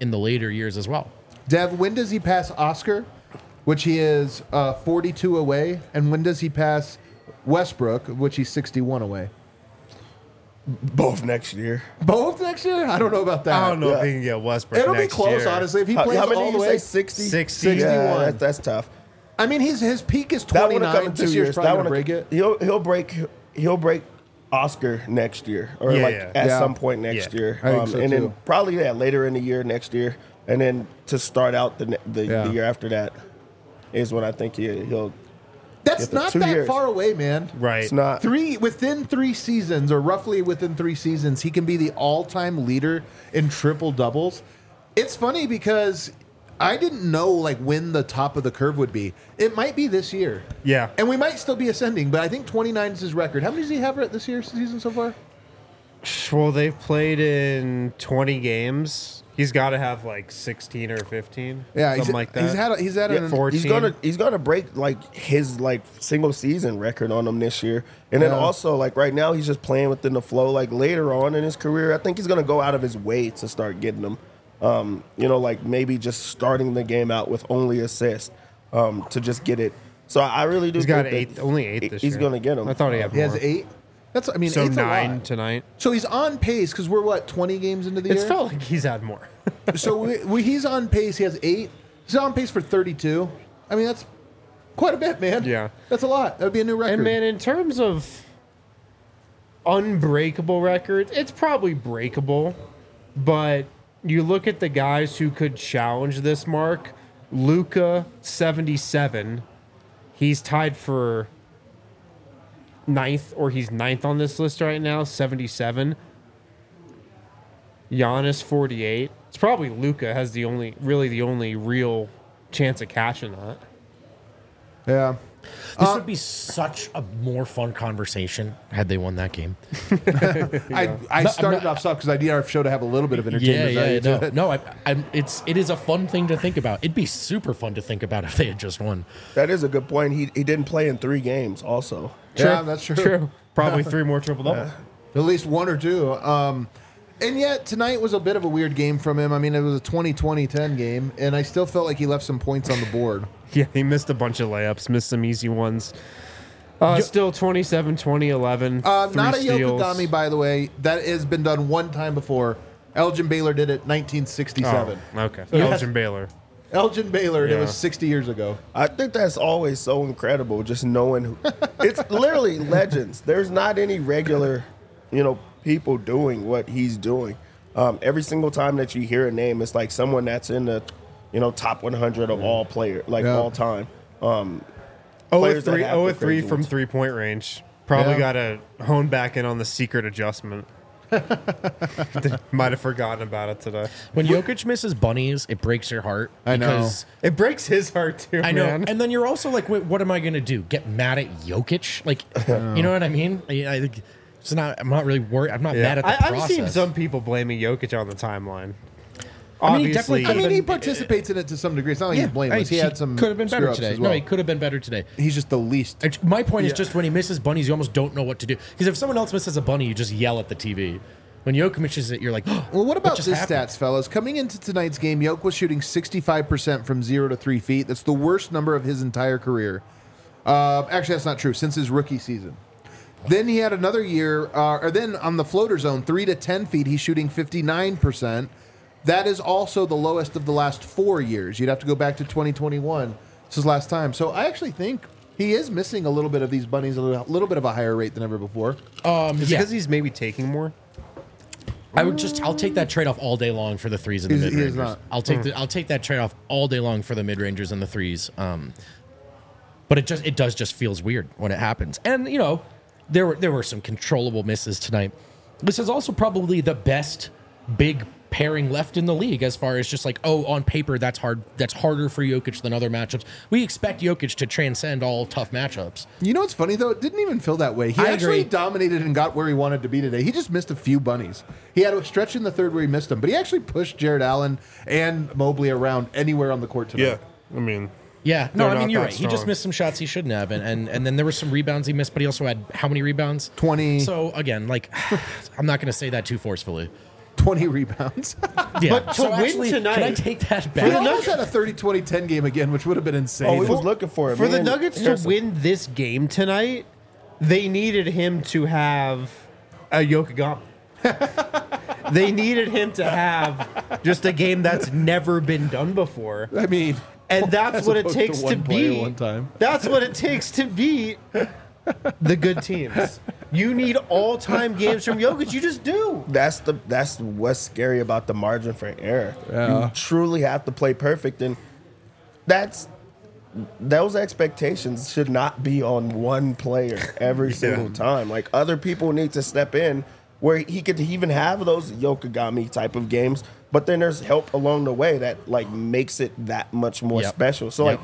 in the later years as well. Dev, when does he pass Oscar, which he is uh, forty-two away, and when does he pass Westbrook, which he's sixty-one away? Both next year. Both next year? I don't know about that. I don't know Yeah. if he can get Westbrook. It'll next be close, year. honestly. If he How, plays how many all did the you way, say? sixty? sixty. Yeah, sixty-one. that's, that's tough. I mean, his his peak is That would have come twenty-nine. in two This years. year's That probably would gonna break it. He'll he'll break he'll break Oscar next year, or Yeah, like yeah. at Yeah. some point next Yeah. year, I think um, so, and too. then probably yeah later in the year next year, and then to start out the ne- the, Yeah. the year after that is when I think he, he'll. That's Get the not two that years. far away, man. Right. It's not. Three within three seasons, or roughly within three seasons, he can be the all-time leader in triple doubles. It's funny because I didn't know like when the top of the curve would be. It might be this year. Yeah. And we might still be ascending, but I think twenty-nine is his record. How many does he have this year season so far? Well, they've played in twenty games. He's got to have like sixteen or fifteen. Yeah, something he's, like that. he's had a, he's had Yeah, an, fourteen. he's gonna he's gonna break like his like single season record on him this year, and then Yeah. also like right now he's just playing within the flow. Like later on in his career, I think he's gonna go out of his way to start getting them. Um, you know, like maybe just starting the game out with only assists um, to just get it. So I really do. He's got think eight, that only eight this he's year. gonna get them. I thought he had he more. has eight. That's I mean So eight's a nine lot. tonight. So he's on pace because we're what twenty games into the It's year. felt like he's had more. So we, we, he's on pace. He has eight. He's on pace for thirty-two. I mean, that's quite a bit, man. Yeah. That's a lot. That would be a new record. And man, in terms of unbreakable records, it's probably breakable. But you look at the guys who could challenge this mark. Luka, seventy-seven. He's tied for ninth, or he's ninth on this list right now, seventy-seven. Giannis, forty-eight. It's probably Luka has the only, really the only real chance of catching that. yeah. This would be such a more fun conversation had they won that game. I, I started off soft because I need our show to have a little bit of Yeah, entertainment yeah, value no, to it. no. I, I'm, it's it is a fun thing to think about. It'd be super fun to think about if they had just won. That is a good point. He he didn't play in three games. Also, Yeah, that's true. True. Probably three more triple doubles. At least one or two. Um, and yet tonight was a bit of a weird game from him. I mean, it was a twenty twenty ten game, and I still felt like he left some points on the board. Yeah, he missed a bunch of layups, missed some easy ones. Uh, still twenty-seven, twenty, eleven. Uh, three not a steals. Yokogami, by the way. That has been done one time before. Elgin Baylor did it nineteen sixty-seven. Oh, okay. Yeah. Elgin Baylor. Elgin Baylor, and it Yeah. was sixty years ago. I think that's always so incredible, just knowing who, it's literally legends. There's not any regular, you know, people doing what he's doing. Um, every single time that you hear a name, it's like someone that's in the, you know, top one hundred of all player, like Yeah. all time. Um, Oh, Players that three, have oh, the three crazy from ones. three point range. Probably Yeah. got to hone back in on the secret adjustment. Might have forgotten about it today. When Jokic misses bunnies, it breaks your heart. I know. because It breaks his heart too, I know. man. And then you're also like, wait, what am I going to do? Get mad at Jokic? Like, you know what I mean? I, I think it's not. I'm not really worried. I'm not Yeah. mad at the I, I've process. seen some people blaming Jokic on the timeline. I mean, he definitely Obviously, I mean, he Even- participates in it to some degree. It's not like he's blameless. He, had some could have been better screw-ups today. as well. No, he could have been better today. He's just the least. It's- My point is just when he misses bunnies, you almost don't know what to do. Because if someone else misses a bunny, you just yell at the T V. When Jokic misses it, you're like, oh, Well, what about just this happened? stats, fellas? Coming into tonight's game, Yoke was shooting sixty-five percent from zero to three feet. That's the worst number of his entire career. Uh, actually, that's not true. Since his rookie season. Then he had another year, uh, or then on the floater zone, three to ten feet, he's shooting fifty-nine percent. That is also the lowest of the last four years. You'd have to go back to twenty twenty-one. This is last time. So I actually think he is missing a little bit of these bunnies, a little, little bit of a higher rate than ever before. Um, is it yeah. because he's maybe taking more? I would just I'll take that trade off all day long for the threes and the He's- mid he is rangers. not. I'll take the, I'll take that trade off all day long for the mid rangers and the threes. Um, but it just it does just feels weird when it happens. And you know, there were there were some controllable misses tonight. This is also probably the best big pairing left in the league as far as just like, oh, on paper that's hard that's harder for Jokic than other matchups. We expect Jokic to transcend all tough matchups. You know what's funny though? It didn't even feel that way. He I actually agree. dominated and got where he wanted to be today. He just missed a few bunnies. He had a stretch in the third where he missed them, but he actually pushed Jared Allen and Mobley around anywhere on the court tonight. I mean, Yeah, no, They're I mean not you're that right. He just strong. missed some shots he shouldn't have, and, and and then there were some rebounds he missed, but he also had how many rebounds? twenty. So again, like I'm not going to say that too forcefully. twenty rebounds. Yeah. But to so win actually, tonight- can I take that He back? almost had a thirty twenty ten game again, which would have been insane. Oh, we was looking for it. For Me the and Nuggets to Harrison- win this game tonight, they needed him to have a Yokogami. They needed him to have just a game that's never been done before. I mean, And that's as what it opposed takes to, one player beat. one time. That's what it takes to beat the good teams. You need all-time games from Jokic. You just do. That's the that's what's scary about the margin for error. Yeah. You truly have to play perfect, and that's those expectations should not be on one player every single time. Like other people need to step in where he could even have those Yokogami type of games, but then there's help along the way that like makes it that much more Yep. special. So Yep. like,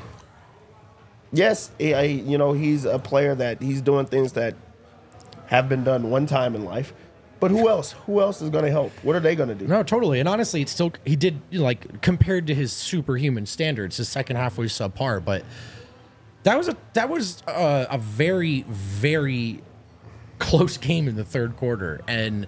yes, he- I, you know he's a player that he's doing things that have been done one time in life. But who else? Who else is going to help? What are they going to do? No, totally. And honestly, it's still he did like compared to his superhuman standards, his second half was subpar. But that was a that was a, a very very close game in the third quarter, and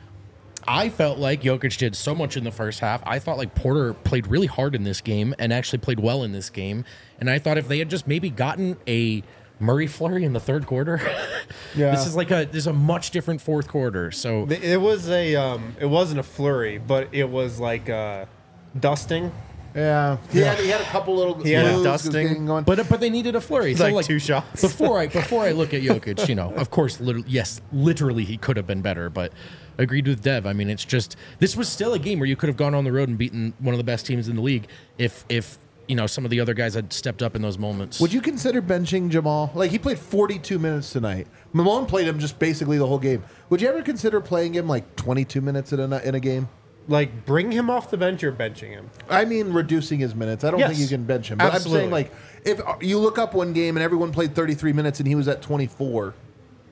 I felt like Jokic did so much in the first half. I thought like Porter played really hard in this game and actually played well in this game. And I thought if they had just maybe gotten a Murray flurry in the third quarter, Yeah. this is like a there's a much different fourth quarter. So It was a um, it wasn't a flurry, but it was like a dusting. yeah, he had, he had a couple little. He had a moves, dusting. was getting going. But but they needed a flurry. So like like two shots. Before I before I look at Jokic, you know, of course, literally, yes, literally he could have been better. But agreed with Dev. I mean, it's just this was still a game where you could have gone on the road and beaten one of the best teams in the league if if you know some of the other guys had stepped up in those moments. Would you consider benching Jamal? Like he played forty-two minutes tonight. Malone played him just basically the whole game. Would you ever consider playing him like twenty-two minutes in a in a game? Like bring him off the bench or benching him. I mean, reducing his minutes. I don't Yes. think you can bench him. But Absolutely. I'm saying, like, if you look up one game and everyone played thirty-three minutes and he was at twenty-four, you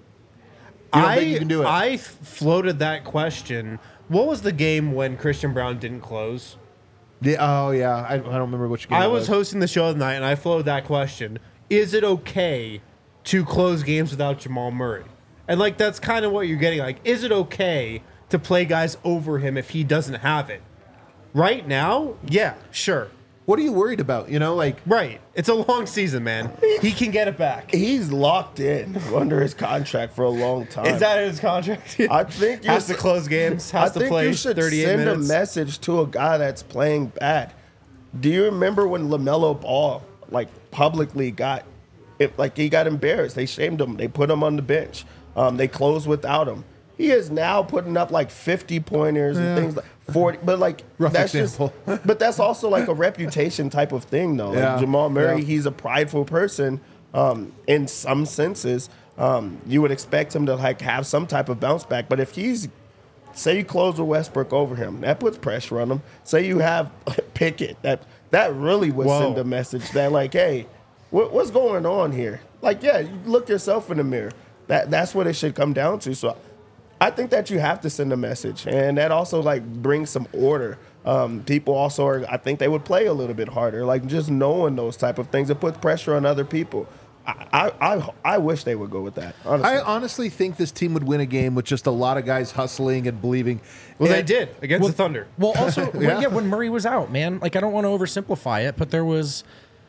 don't I think you can do it? I floated that question. What was the game when Christian Brown didn't close? yeah, oh yeah, I, I don't remember which game. I it was hosting the show tonight and I floated that question. Is it okay to close games without Jamal Murray? And like that's kind of what you're getting. Like, is it okay to play guys over him if he doesn't have it? Right now, yeah, sure. What are you worried about? You know, like Right. It's a long season, man. He can get it back. He's locked in under his contract for a long time. Is that in his contract? I think you has to should- close games, I has to think play you should thirty-eight send minutes. a message to a guy that's playing bad. Do you remember when LaMelo Ball like publicly got it? Like he got embarrassed. They shamed him. They put him on the bench. Um, they closed without him. He is now putting up like fifty pointers and things like forty. But like Rough that's example. just. But that's also like a reputation type of thing, though. Like Yeah. Jamal Murray, Yeah. he's a prideful person. Um, in some senses, um, you would expect him to like have some type of bounce back. But if he's say you close with Westbrook over him, that puts pressure on him. Say you have Pickett, that that really would Whoa. send a message that like, hey, what, what's going on here? Like, yeah, you look yourself in the mirror. That that's what it should come down to. So, I think that you have to send a message, and that also like brings some order. Um, people also are, I think they would play a little bit harder, like just knowing those type of things. It puts pressure on other people. I I I, I wish they would go with that. Honestly. I honestly think this team would win a game with just a lot of guys hustling and believing. well, they And- did against the Thunder. Well, also, when, Yeah. yeah. when Murray was out, man, like I don't want to oversimplify it, but there was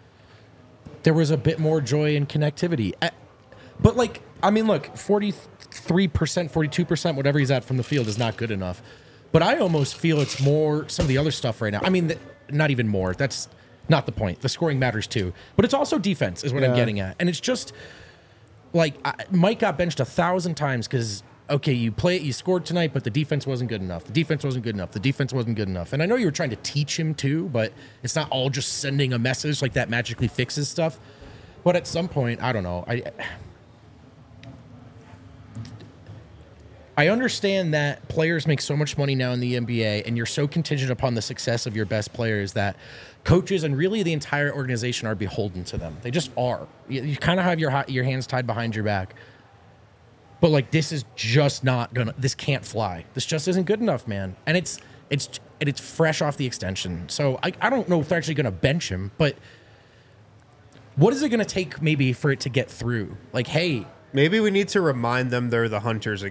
there was a bit more joy and connectivity. I- but like, I mean, look, forty-three percent, forty-two percent, whatever he's at from the field is not good enough. But I almost feel it's more some of the other stuff right now. I mean, th- not even more. That's not the point. The scoring matters too, but it's also defense is what I'm Yeah. getting at, and it's just like I, Mike got benched a thousand times because okay, you play it, you scored tonight, but the defense wasn't good enough. The defense wasn't good enough. The defense wasn't good enough. And I know you were trying to teach him too, but it's not all just sending a message like that magically fixes stuff. But at some point, I don't know. I I understand that players make so much money now in the N B A, and you're so contingent upon the success of your best players that coaches and really the entire organization are beholden to them. They just are. You, you kind of have your ha- your hands tied behind your back. But like this is just not gonna. This can't fly. This just isn't good enough, man. And it's it's and it's fresh off the extension. So I, I don't know if they're actually gonna bench him, but what is it gonna take maybe for it to get through? Like, hey, Maybe we need to remind them they're the Hunters again.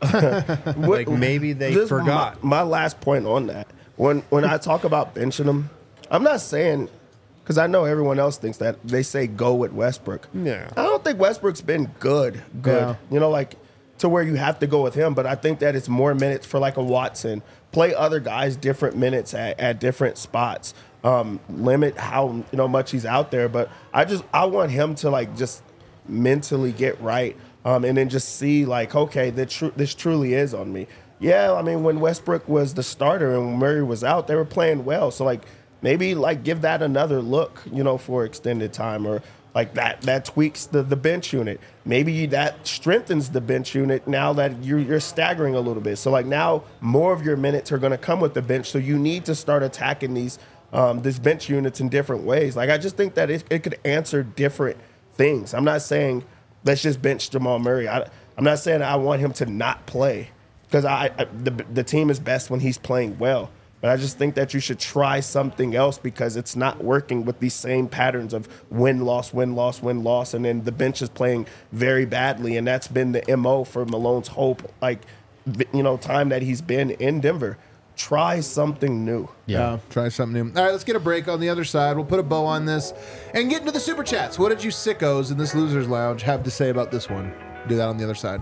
Like maybe they This- forgot. My, my last point on that. When when I talk about benching him, I'm not saying because I know everyone else thinks that they say go with Westbrook. Yeah. I don't think Westbrook's been good. Good. Yeah. You know, like to where you have to go with him. But I think that it's more minutes for like a Watson. Play other guys different minutes at, at different spots. Um, limit how you know much he's out there. But I just I want him to like just mentally get right. Um, and then just see like, okay, that tr- this truly is on me. Yeah, I mean, when Westbrook was the starter and when Murray was out, they were playing well. So like maybe like give that another look, you know, for extended time, or like that that tweaks the, the bench unit. Maybe that strengthens the bench unit now that you're you're staggering a little bit. So like now more of your minutes are going to come with the bench. So you need to start attacking these um, this bench units in different ways. Like I just think that it, it could answer different things. I'm not saying let's just bench Jamal Murray. I, I'm not saying I want him to not play because I, I the, the team is best when he's playing well. But I just think that you should try something else because it's not working with these same patterns of win, loss, win, loss, win, loss. And then the bench is playing very badly. And that's been the M O for Malone's hope, like, you know, time that he's been in Denver. Try something new. Yeah. Try something new. All right, let's get a break. On the other side, we'll put a bow on this and get into the super chats. What did you sickos in this Losers Lounge have to say about this one? Do that on the other side.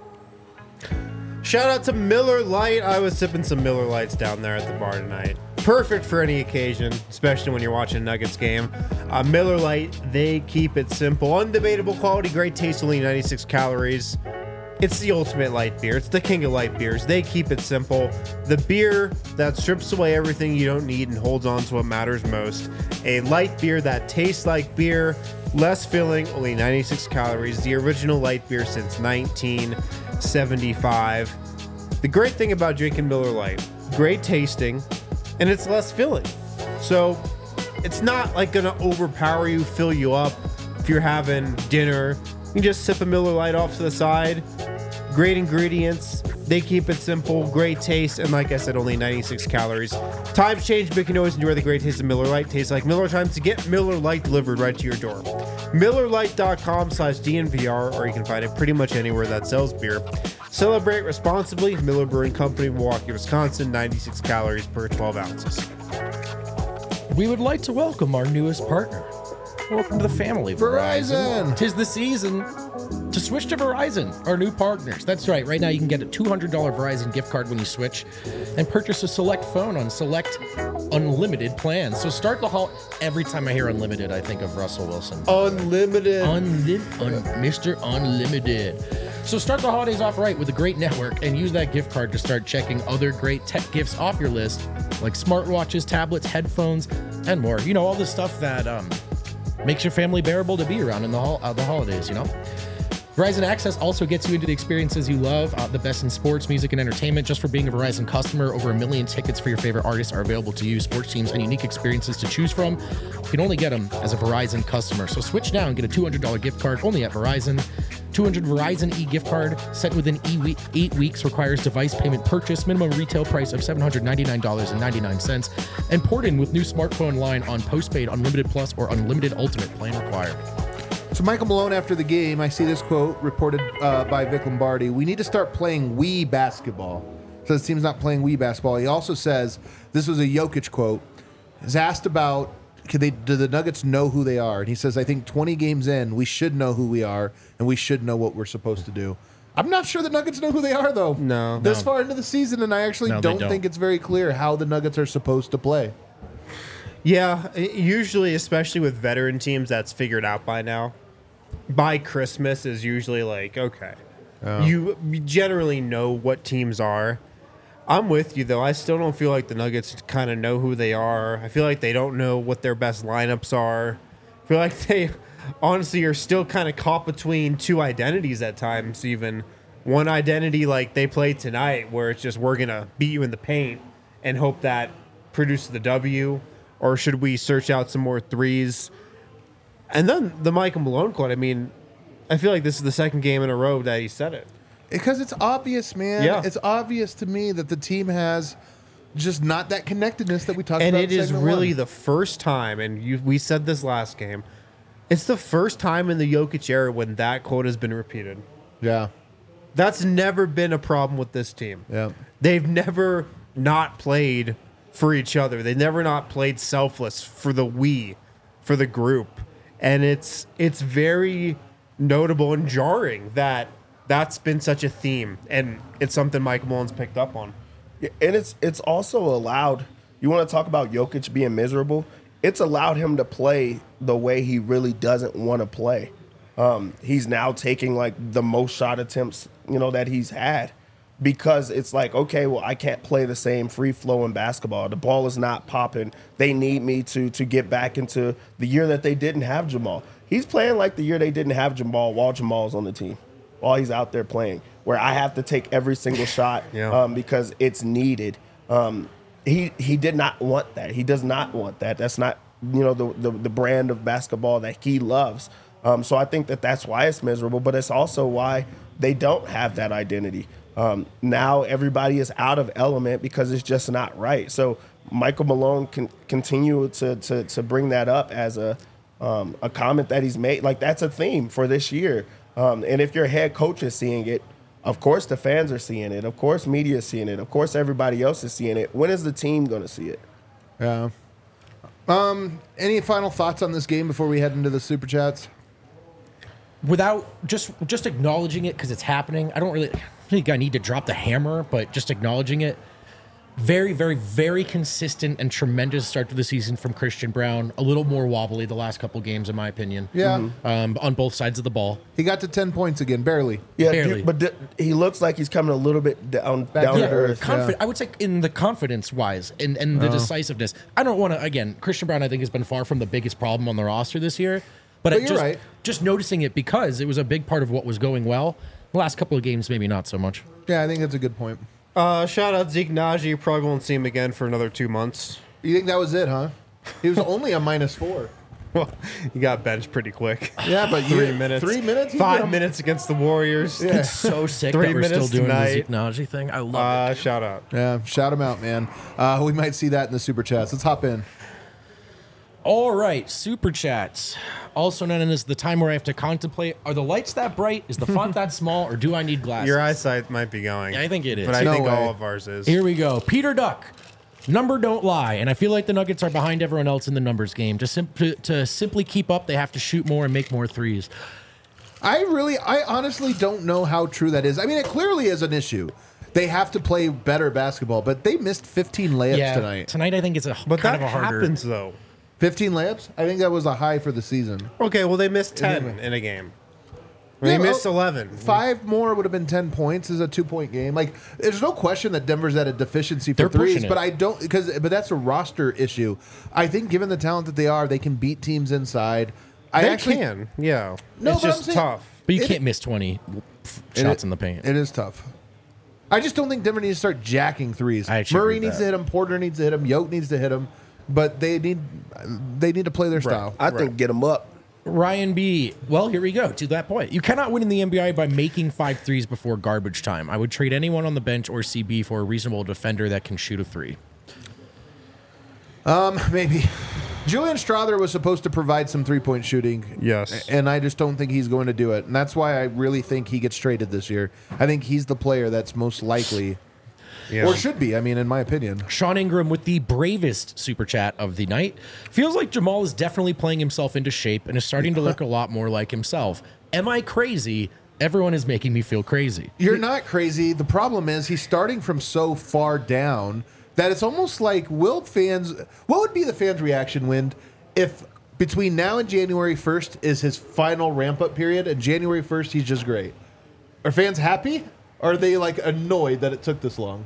Shout out to Miller Lite. I was sipping some Miller Lights down there at the bar tonight. Perfect for any occasion, especially when you're watching a Nuggets game. Uh, Miller Lite, they keep it simple. Undebatable quality, great taste, only ninety-six calories. It's the ultimate light beer. It's the king of light beers. They keep it simple. The beer that strips away everything you don't need and holds on to what matters most. A light beer that tastes like beer, less filling, only ninety-six calories. The original light beer since nineteen seventy-five. The great thing about drinking Miller Lite, great tasting, and it's less filling. So it's not like gonna overpower you, fill you up. If you're having dinner, you can just sip a Miller Lite off to the side. Great ingredients. They keep it simple, great taste, and like I said, only ninety-six calories. Times change, but you can always enjoy the great taste of Miller Lite. Tastes like Miller time to get Miller Lite delivered right to your door. Miller Lite dot com slash D N V R, or you can find it pretty much anywhere that sells beer. Celebrate responsibly. Miller Brewing Company, Milwaukee, Wisconsin, ninety-six calories per twelve ounces. We would like to welcome our newest partner. Welcome to the family, Verizon. Tis the season to switch to Verizon, our new partners. That's right. Right now, you can get a two hundred dollars Verizon gift card when you switch and purchase a select phone on select unlimited plans. So start the haul. Every time I hear unlimited, I think of Russell Wilson. Unlimited. Unlim- un- Mister Unlimited. So start the holidays off right with a great network and use that gift card to start checking other great tech gifts off your list, like smartwatches, tablets, headphones, and more. You know, all the stuff that um, makes your family bearable to be around in the, hol- uh, the holidays, you know? Verizon Access also gets you into the experiences you love, uh, the best in sports, music, and entertainment. Just for being a Verizon customer, over a million tickets for your favorite artists are available to you, sports teams, and unique experiences to choose from. You can only get them as a Verizon customer. So switch now and get a two hundred dollars gift card only at Verizon. two hundred Verizon e-gift card sent within e- eight weeks, requires device payment purchase, minimum retail price of seven hundred ninety-nine dollars and ninety-nine cents, and port in with new smartphone line on postpaid, unlimited plus, or unlimited ultimate plan required. So Michael Malone, after the game, I see this quote reported uh, by Vic Lombardi. We need to start playing Wii basketball. So the team's not playing Wii basketball. He also says, this was a Jokic quote, is asked about, could they, do the Nuggets know who they are? And he says, I think twenty games in, we should know who we are, and we should know what we're supposed to do. I'm not sure the Nuggets know who they are, though. No. This No. far into the season, and I actually No, they don't, don't. think it's very clear how the Nuggets are supposed to play. Yeah, i- usually, especially with veteran teams, that's figured out by now. By Christmas is usually like, okay, you you generally know what teams are. I'm with you, though. I still don't feel like the Nuggets kind of know who they are. I feel like they don't know what their best lineups are. I feel like they honestly are still kind of caught between two identities at times, even. One identity like they play tonight, where it's just we're going to beat you in the paint and hope that produces the W, or should we search out some more threes? And then the Michael Malone quote, I mean, I feel like this is the second game in a row that he said it. Because it's obvious, man. Yeah. It's obvious to me that the team has just not that connectedness that we talked And about. it in is segment really one. the first time, and you, we said this last game, it's the first time in the Jokic era when that quote has been repeated. Yeah. That's never been a problem with this team. Yeah. They've never not played for each other. They never not played selfless for the we, for the group. And it's it's very notable and jarring that that's been such a theme, and it's something Mike Mullins picked up on. Yeah, and it's it's also allowed, you want to talk about Jokic being miserable, it's allowed him to play the way he really doesn't want to play. Um, he's now taking like the most shot attempts, you know, that he's had, because it's like, okay, well, I can't play the same free flowing basketball. The ball is not popping. They need me to to get back into the year that they didn't have Jamal. He's playing like the year they didn't have Jamal while Jamal's on the team, while he's out there playing, where I have to take every single shot Yeah. um, because it's needed. Um, he he did not want that. He does not want that. That's not, you know, the the, the brand of basketball that he loves. Um, so I think that that's why it's miserable, but it's also why they don't have that identity. Um, now everybody is out of element because it's just not right. So Michael Malone can continue to to to bring that up as a um, a comment that he's made. Like, that's a theme for this year. Um, and if your head coach is seeing it, of course the fans are seeing it. Of course media is seeing it. Of course everybody else is seeing it. When is the team going to see it? Yeah. Um. Any final thoughts on this game before we head into the super chats? Without just just acknowledging it because it's happening, I don't really think I need to drop the hammer, but just acknowledging it. Very, very, very consistent and tremendous start to the season from Christian Braun. A little more wobbly the last couple games, in my opinion. Yeah. Um, on both sides of the ball. He got to ten points again, barely. Yeah, Barely. dude, but d- he looks like he's coming a little bit down, down to to earth. Confi- I would say in the confidence wise and, and the decisiveness. I don't want to, again, Christian Braun, I think, has been far from the biggest problem on the roster this year. But, But I you're just, right. just noticing it because it was a big part of what was going well. The last couple of games, maybe not so much. Yeah, I think that's a good point. Uh, shout out Zeke Naji. Probably won't see him again for another two months. You think that was it, huh? He was only a minus four. Well, he got benched pretty quick. Yeah, but Three you, minutes. Three minutes. He's Five been- minutes against the Warriors. Yeah. It's so sick Three that we're still minutes doing tonight. the Zeke Naji thing. I love it. Uh, shout out. Yeah, shout him out, man. Uh, we might see that in the super chats. Let's hop in. All right, super chats, also known as the time where I have to contemplate: are the lights that bright? Is the font that small? Or do I need glasses? Your eyesight might be going. I think it is. But I No think way. all of ours is. Here we go. Peter Duck. Number don't lie, and I feel like the Nuggets are behind everyone else in the numbers game. To, sim- to, to simply keep up, they have to shoot more and make more threes. I really, I honestly don't know how true that is. I mean, it clearly is an issue. They have to play better basketball, but they missed fifteen layups tonight. Tonight, I think it's a But kind that of a harder. happens, though. fifteen layups? I think that was a high for the season. Okay, well, they missed ten Anyway. in a game. Yeah, They well, missed eleven. Five more would have been ten points. Is a two point game. Like, there's no question that Denver's at a deficiency for They're threes, pushing it. but I don't because but that's a roster issue. I think given the talent that they are, they can beat teams inside. I They actually can, yeah. No, it's but I'm just saying- tough. But you It- can't miss twenty It- shots in the paint. It is tough. I just don't think Denver needs to start jacking threes. I actually Murray agree needs with to that. hit him. Porter needs to hit him. Yoke needs to hit him. But they need they need to play their style. I think get him up. Ryan B. Well, here we go to that point. You cannot win in the N B A by making five threes before garbage time. I would trade anyone on the bench or C B for a reasonable defender that can shoot a three. Um, maybe. Julian Strother was supposed to provide some three point shooting. Yes. And I just don't think he's going to do it. And that's why I really think he gets traded this year. I think he's the player that's most likely, Yeah. or should be, I mean, in my opinion. Sean Ingram with the bravest super chat of the night. Feels like Jamal is definitely playing himself into shape and is starting to look a lot more like himself. Am I crazy? Everyone is making me feel crazy. You're not crazy. The problem is he's starting from so far down that it's almost like, will fans, what would be the fans' reaction, Wind, if between now and January first is his final ramp up period and January first he's just great? Are fans happy? Or are they like annoyed that it took this long?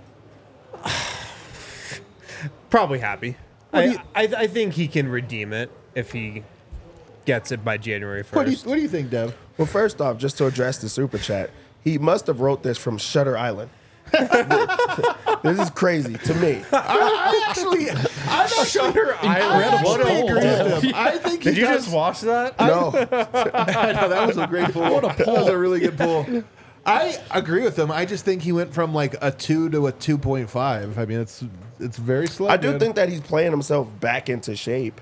Probably happy. What do I, you- I, I think he can redeem it if he gets it by January What do you, first. what do you think, Dev? Well, first off, just to address the super chat, he must have wrote this from Shutter Island. This is crazy to me. I actually, I'm actually, Shutter Incredible I actually pull, agree with Dev. him. I think he Did you does- just watch that? No, I know, that was a great pull. What a That was a really good pull. I agree with him. I just think he went from like a two to a two point five. I mean, it's it's very slow. I do man. think that he's playing himself back into shape.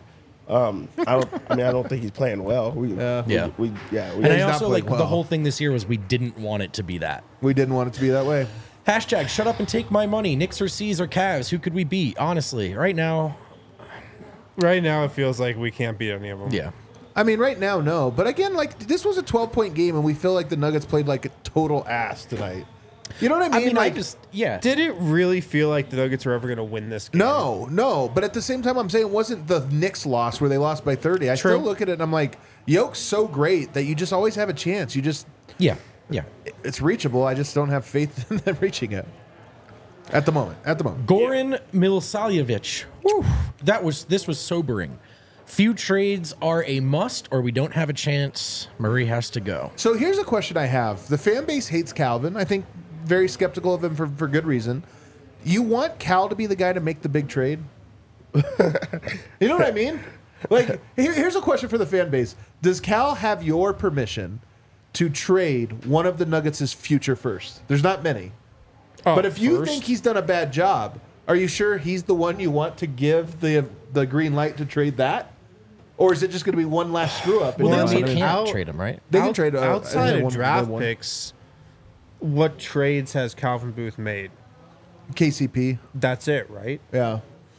Um, I don't. I mean, I don't think he's playing well. We, Yeah. we, Yeah. we yeah. We, And I he's not also playing like well. the whole thing this year was we didn't want it to be that. We didn't want it to be that way. Hashtag shut up and take my money. Knicks or C's or Cavs. Who could we beat? Honestly, right now, Right now, it feels like we can't beat any of them. yeah. I mean, right now, no. But again, like this was a twelve-point game, and we feel like the Nuggets played like a total ass tonight. You know what I mean? I mean, like, I just yeah. Did it really feel like the Nuggets were ever going to win this game? no, no. But at the same time, I'm saying it wasn't the Knicks loss where they lost by thirty. I True. still look at it and I'm like, Yoke's so great that you just always have a chance. You just, yeah, yeah. it's reachable. I just don't have faith in them reaching it at the moment. At the moment. Goran Milosavljevic. Whew, that was this was sobering. Few trades are a must, or we don't have a chance. Murray has to go. So here's a question I have. The fan base hates Calvin. I think very skeptical of him for, for good reason. You want Cal to be the guy to make the big trade? You know what I mean? Like, here, here's a question for the fan base. Does Cal have your permission to trade one of the Nuggets' future first? There's not many. Oh, but if you first? think he's done a bad job, are you sure he's the one you want to give the the green light to trade that? Or is it just going to be one last screw up? and Well, then then we somebody- can't out- trade him, right? They can Out- trade uh, outside one- of draft one- picks. What trades has Calvin Booth made? K C P. That's it, right? Yeah.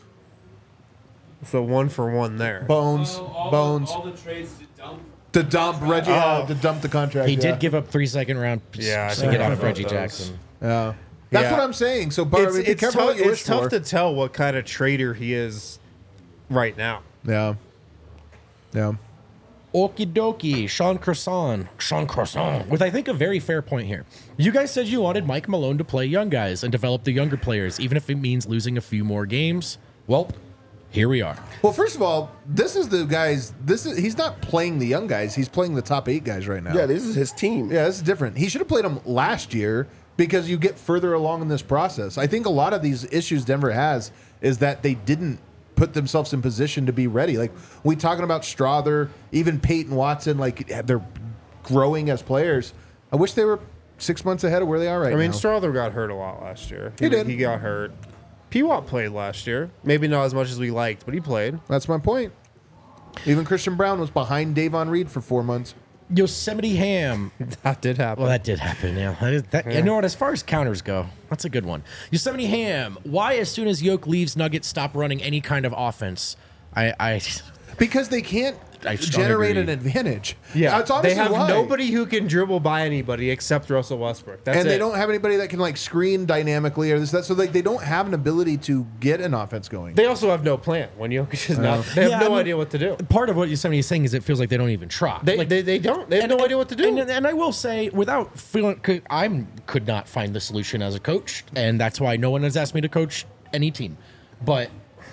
So one for one there. Bones. So all Bones. The, all the trades to dump. To dump Reggie, uh, to dump the contract. He yeah. did give up three second round Yeah, I to get forgot off about Reggie those. Jackson. Yeah. That's Yeah. what I'm saying. So, Bar, It's, be it's, careful tough, what you wish it's tough for. to tell what kind of trader he is right now. Yeah. Yeah. Okie dokie, Sean Croissant. Sean Croissant. With, I think, a very fair point here. You guys said you wanted Mike Malone to play young guys and develop the younger players, even if it means losing a few more games. Well, here we are. Well, first of all, this is the guys. This is he's not playing the young guys. He's playing the top eight guys right now. yeah, this is his team. Yeah, this is different. He should have played them last year because you get further along in this process. I think a lot of these issues Denver has is that they didn't put themselves in position to be ready. Like we talking about Strother, even Peyton Watson, like they're growing as players. I wish they were six months ahead of where they are right I mean, now. Strother got hurt a lot last year. He did. He got hurt. P-Watt played last year. Maybe not as much as we liked, but he played. That's my point. Even Christian Brown was behind Davon Reed for four months. Yosemite Ham. That did happen. Well, that did happen. Yeah, that is, that, you know what? As far as counters go, that's a good one. Yosemite Ham. Why, as soon as Yoke leaves, Nuggets stop running any kind of offense? I, I Because they can't I strongly generate agree. an advantage. yeah, That's they obviously have why. nobody who can dribble by anybody except Russell Westbrook. That's and they it. don't have anybody that can like screen dynamically or this that. So like they don't have an ability to get an offense going. They also have no plan when Jokic is not. They have Yeah, no I mean, idea what to do. part of what Yosemite is saying is it feels like they don't even try. They, like, they, they don't. They have no idea what to do. And, and I will say, without feeling, could, I could not find the solution as a coach, and that's why no one has asked me to coach any team. But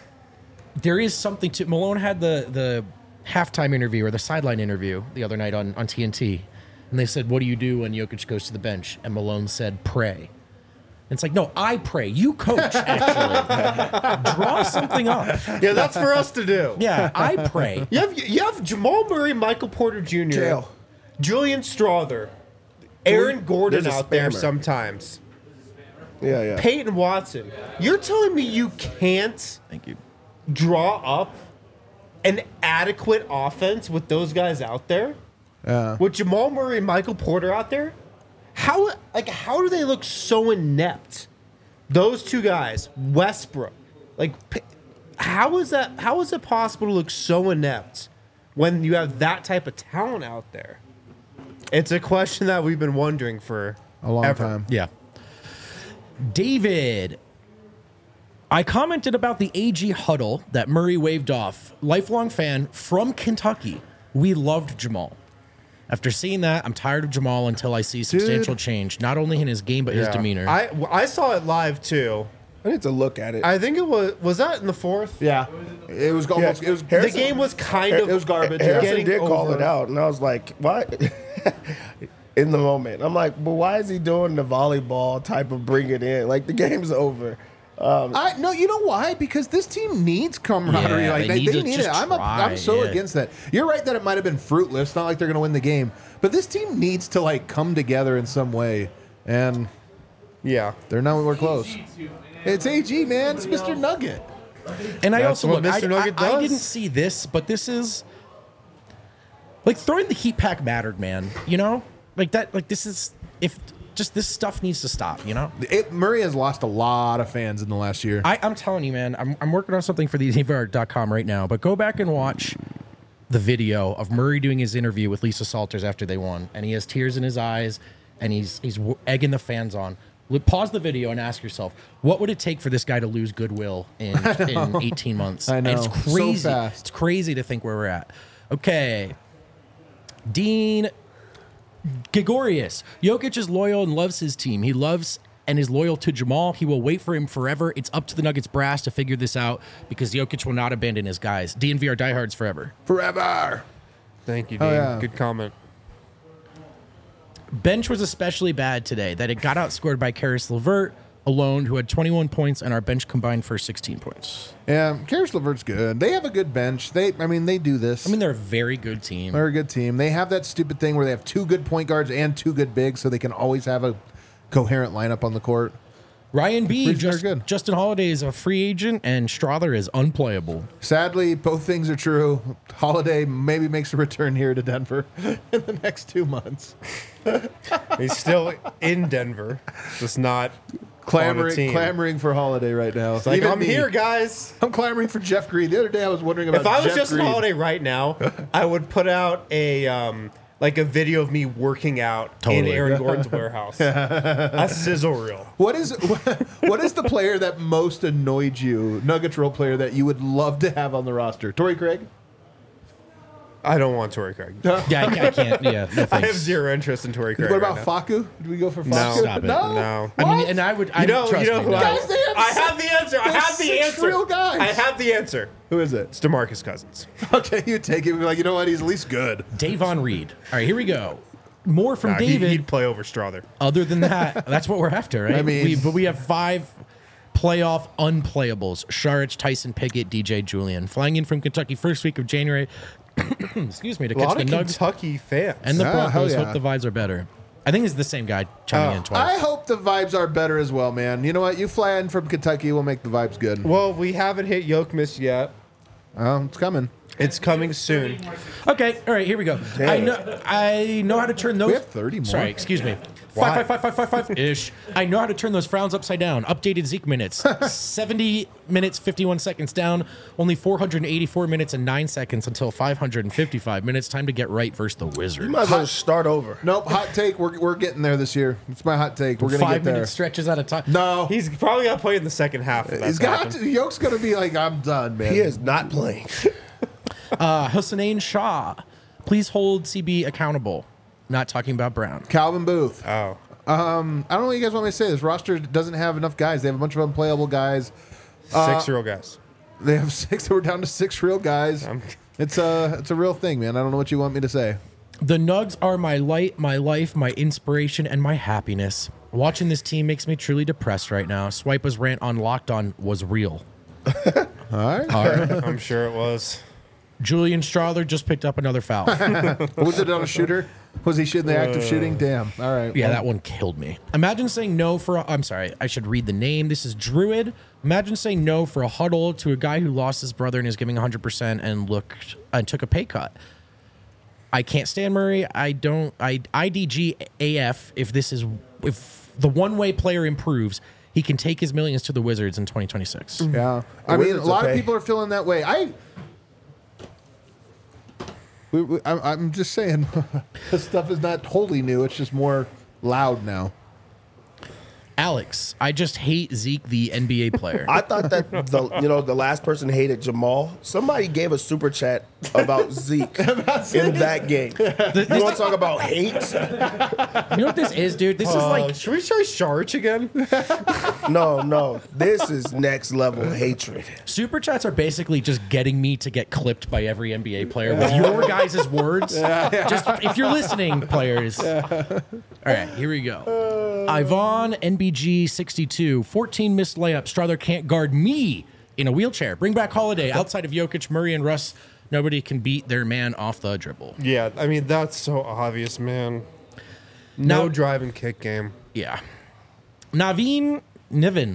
there is something to Malone had the the halftime interview or the sideline interview the other night on, on T N T, and they said, "What do you do when Jokic goes to the bench?" And Malone said, "Pray." And it's like, no, I pray. You coach, actually. Draw something up. yeah, that's for us to do. Yeah, I pray. You have you have Jamal Murray, Michael Porter Junior, Jail. Julian Strother, Aaron Gordon There's a out there spammer. sometimes, Yeah, yeah. Peyton Watson. You're telling me you can't Thank you. draw up an adequate offense with those guys out there? Yeah. With Jamal Murray and Michael Porter out there? How like how do they look so inept? Those two guys, Westbrook. Like p- how is that how is it possible to look so inept when you have that type of talent out there? It's a question that we've been wondering for A long ever. time. Yeah. David, I commented about the A G huddle that Murray waved off. Lifelong fan from Kentucky. We loved Jamal. After seeing that, I'm tired of Jamal until I see substantial change, not only in his game, but his Yeah. demeanor. I I saw it live too. I need to look at it. I think it was was that in the fourth? Yeah. It was almost. It was. The Harrison- game was kind of It was garbage. Harrison getting did call over- it out, and I was like, "What?" In the moment, I'm like, "But why is he doing the volleyball type of bring it in? Like the game's over." Um, I no, you know why? Because this team needs camaraderie. Yeah, like they they, need they to need just it. I'm a, try, I'm so yeah. against that. You're right that it might have been fruitless. Not like they're going to win the game, but this team needs to like come together in some way, and Yeah. they're nowhere close. G G too, man. It's A G, man. It's Mister Nugget. And I That's also what look, Mister I, Nugget I, I does. didn't see this, but this is like throwing the heat pack mattered, man. You know, like that. Like this is if just this stuff needs to stop. You know, It, Murray has lost a lot of fans in the last year. I, I'm telling you, man. I'm I'm working on something for the D V R dot com right now, but go back and watch the video of Murray doing his interview with Lisa Salters after they won, and he has tears in his eyes, and he's he's w- egging the fans on. Look, pause the video and ask yourself, what would it take for this guy to lose goodwill in, in eighteen months? I know. And it's So crazy. fast. It's crazy to think where we're at. Okay. Dean Gregorius. Jokic is loyal and loves his team. He loves and is loyal to Jamal. He will wait for him forever. It's up to the Nuggets brass to figure this out because Jokic will not abandon his guys. D N V are diehards forever. Forever. Thank you, Dean. Oh, yeah. Good comment. Bench was especially bad today that it got outscored by Karis LeVert alone, who had twenty-one points, and our bench combined for sixteen points. Yeah, Karis LeVert's good. They have a good bench. They, I mean, they do this. I mean, they're a very good team. They're a good team. They have that stupid thing where they have two good point guards and two good bigs, so they can always have a coherent lineup on the court. Ryan B. Reasons Just, are good. Justin Holiday is a free agent, and Strother is unplayable. Sadly, both things are true. Holiday maybe makes a return here to Denver in the next two months. He's still in Denver, just not on a Clamoring, team. clamoring for Holiday right now. It's like, Even I'm me. here, guys. I'm clamoring for Jeff Green. The other day I was wondering about If I was Jeff just Green. on holiday right now, I would put out a um, like a video of me working out Totally. in Aaron Gordon's warehouse. A sizzle reel. What is what is the player that most annoyed you, Nuggets role player that you would love to have on the roster? Torrey Craig? I don't want Torrey Craig. Yeah, I, I can't. Yeah, no I have thanks. zero interest in Torrey Craig. What about right now. Faku? Do we go for No. Faku? Stop it. No. No. I mean, What? and I would. I You know, trust you know me, who no. I, Guys, they have I six- have the answer. I they have have the six answer. real guys. I have the answer. Who is it? It's DeMarcus Cousins. Okay, you take it. Be like, you know what? He's at least good. Davon Reed. All right, here we go. More from Nah, he, David. he'd play over Strother. Other than that, that's what we're after, right? I mean- we, but we have five playoff unplayables: Sharich, Tyson Pickett, D J Julian, flying in from Kentucky first week of January. Excuse me, to A catch lot the of Nugs Kentucky fans. and the Ah, Broncos. hell yeah. Hope the vibes are better. I think it's the same guy chiming Oh. in twice. I hope the vibes are better as well, man. You know what? You fly in from Kentucky, we'll make the vibes good. well, we haven't hit Yoke Miss yet. Oh, it's coming. It's coming soon. Okay, all right, here we go. I know, I know how to turn those. We have thirty more. Sorry, excuse me. Why? Five, five, five, five, five, five ish. I know how to turn those frowns upside down. Updated Zeke minutes. seventy minutes, fifty-one seconds down. Only four hundred eighty-four minutes and nine seconds until five hundred fifty-five minutes. Time to get right versus the Wizards. You might as well just start over. Nope, hot take. We're, we're getting there this year. It's my hot take. We're going to Five get there. minute stretches at a time. No. He's probably got to play in the second half. if He's that's got happened. to. Yoke's going to be like, I'm done, man. He is not playing. Uh, Hussein Shah, please hold C B accountable. Not talking about Brown. Calvin Booth. Oh. I don't know what you guys want me to say. This roster doesn't have enough guys. They have a bunch of unplayable guys. Six year old guys. They have six. We're down to six real guys. Um, It's a, it's a real thing, man. I don't know what you want me to say. The Nugs are my light, my life, my inspiration, and my happiness. Watching this team makes me truly depressed right now. Swipa's rant on Locked On was real. All right. All right. I'm sure it was. Julian Strother just picked up another foul. Was it on a shooter? Was he shooting the act of shooting? Damn. All right. Yeah, Well, that one killed me. Imagine saying no for a, I'm sorry, I should read the name. This is Druid. Imagine saying no for a huddle to a guy who lost his brother and is giving one hundred percent and looked and took a pay cut. I can't stand Murray. I don't I I D G A F if this is if the one-way player improves, he can take his millions to the Wizards in twenty twenty-six. Yeah. I The mean, a Wizards lot will of pay. people are feeling that way. I. We, we, I'm, I'm just saying, this stuff is not wholly new. It's just more loud now. Alex, I just hate Zeke, the N B A player. I thought that the you know the last person hated Jamal. Somebody gave a super chat about Zeke in that game. You want to talk about hate? You know what this is, dude? This is Uh, like should we try Sharch again? No, no. This is next level hatred. super chats are basically just getting me to get clipped by every N B A player with your guys' words. Just if you're listening, players. All right, here we go. Ivan N B G sixty-two, fourteen missed layups. Strother can't guard me in a wheelchair. Bring back Holiday. Outside of Jokic, Murray, and Russ, nobody can beat their man off the dribble. Yeah, I mean, that's so obvious, man. No Now- drive and kick game. Yeah. Naveen Niven.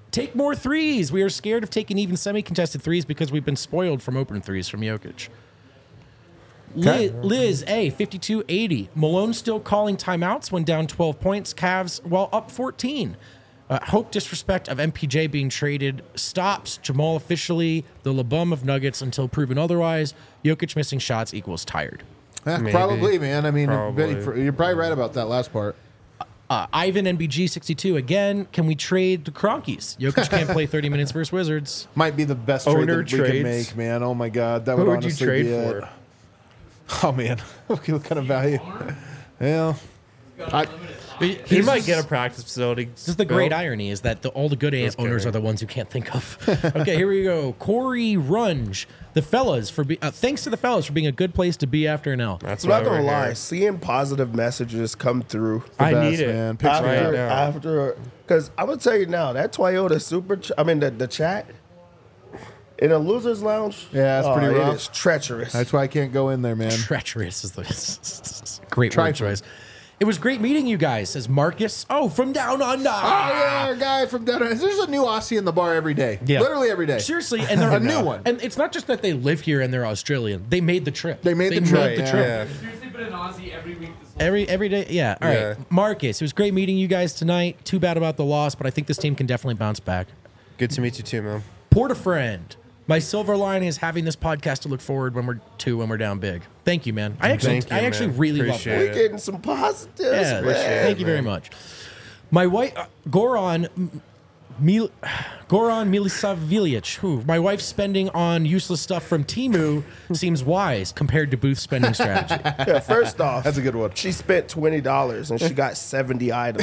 Take more threes. We are scared of taking even semi-contested threes because we've been spoiled from open threes from Jokic. Liz, Liz A, fifty-two eighty. Malone still calling timeouts when down twelve points. Cavs while up fourteen. Uh, hope disrespect of M P J being traded stops. Jamal officially the LeBum of Nuggets until proven otherwise. Jokic missing shots equals tired. Eh, Maybe. probably, man. I mean, Probably. you're probably right about that last part. Uh, Ivan N B G sixty-two again. Can we trade the Cronkies? Jokic can't play thirty minutes versus Wizards. Might be the best trade Owner that we can trades. make, man. Oh my god, that Who would would you honestly trade be for? it. Oh man, what kind of value? Yeah, I, He Here's might this- get a practice facility. This is the great built. irony is that the, all the good a- Just owners kidding. are the ones who can't think of. Okay, here we go. Corey Runge, the fellas for be, uh, thanks to the fellas for being a good place to be after an L. That's I'm why not gonna we're lie, here. seeing positive messages come through I best, need it. man. Picture Right after, now. after, because I'm gonna tell you now that Toyota Super, ch- I mean the, the chat in a losers lounge. Yeah, it's oh, pretty It rough. is treacherous. that's why I can't go in there, man. Treacherous is the great Try word for it. choice. It was great meeting you guys, says Marcus. Oh, from down under. Oh yeah, our guy from down. There's a new Aussie in the bar every day. Yeah. Literally every day. Seriously, and they're A new one. And it's not just that they live here and they're Australian. They made the trip. They made the trip, the yeah. trip. Yeah. Seriously, been an Aussie every week this whole Every every day, yeah. All right, Yeah. Marcus. It was great meeting you guys tonight. Too bad about the loss, but I think this team can definitely bounce back. Good to meet you too, man. Porta friend. My silver lining is having this podcast to look forward when we're to when we're down big. Thank you, man. I actually Thank you, I actually man. really Appreciate love we that. it. getting some positives. Yeah, man. thank you very much. My wife, uh, Goran M- Mil- Goran Milisavljevic, who my wife's spending on useless stuff from Temu seems wise compared to Booth's spending strategy. Yeah, first off, That's a good one. She spent twenty dollars and she got seventy items.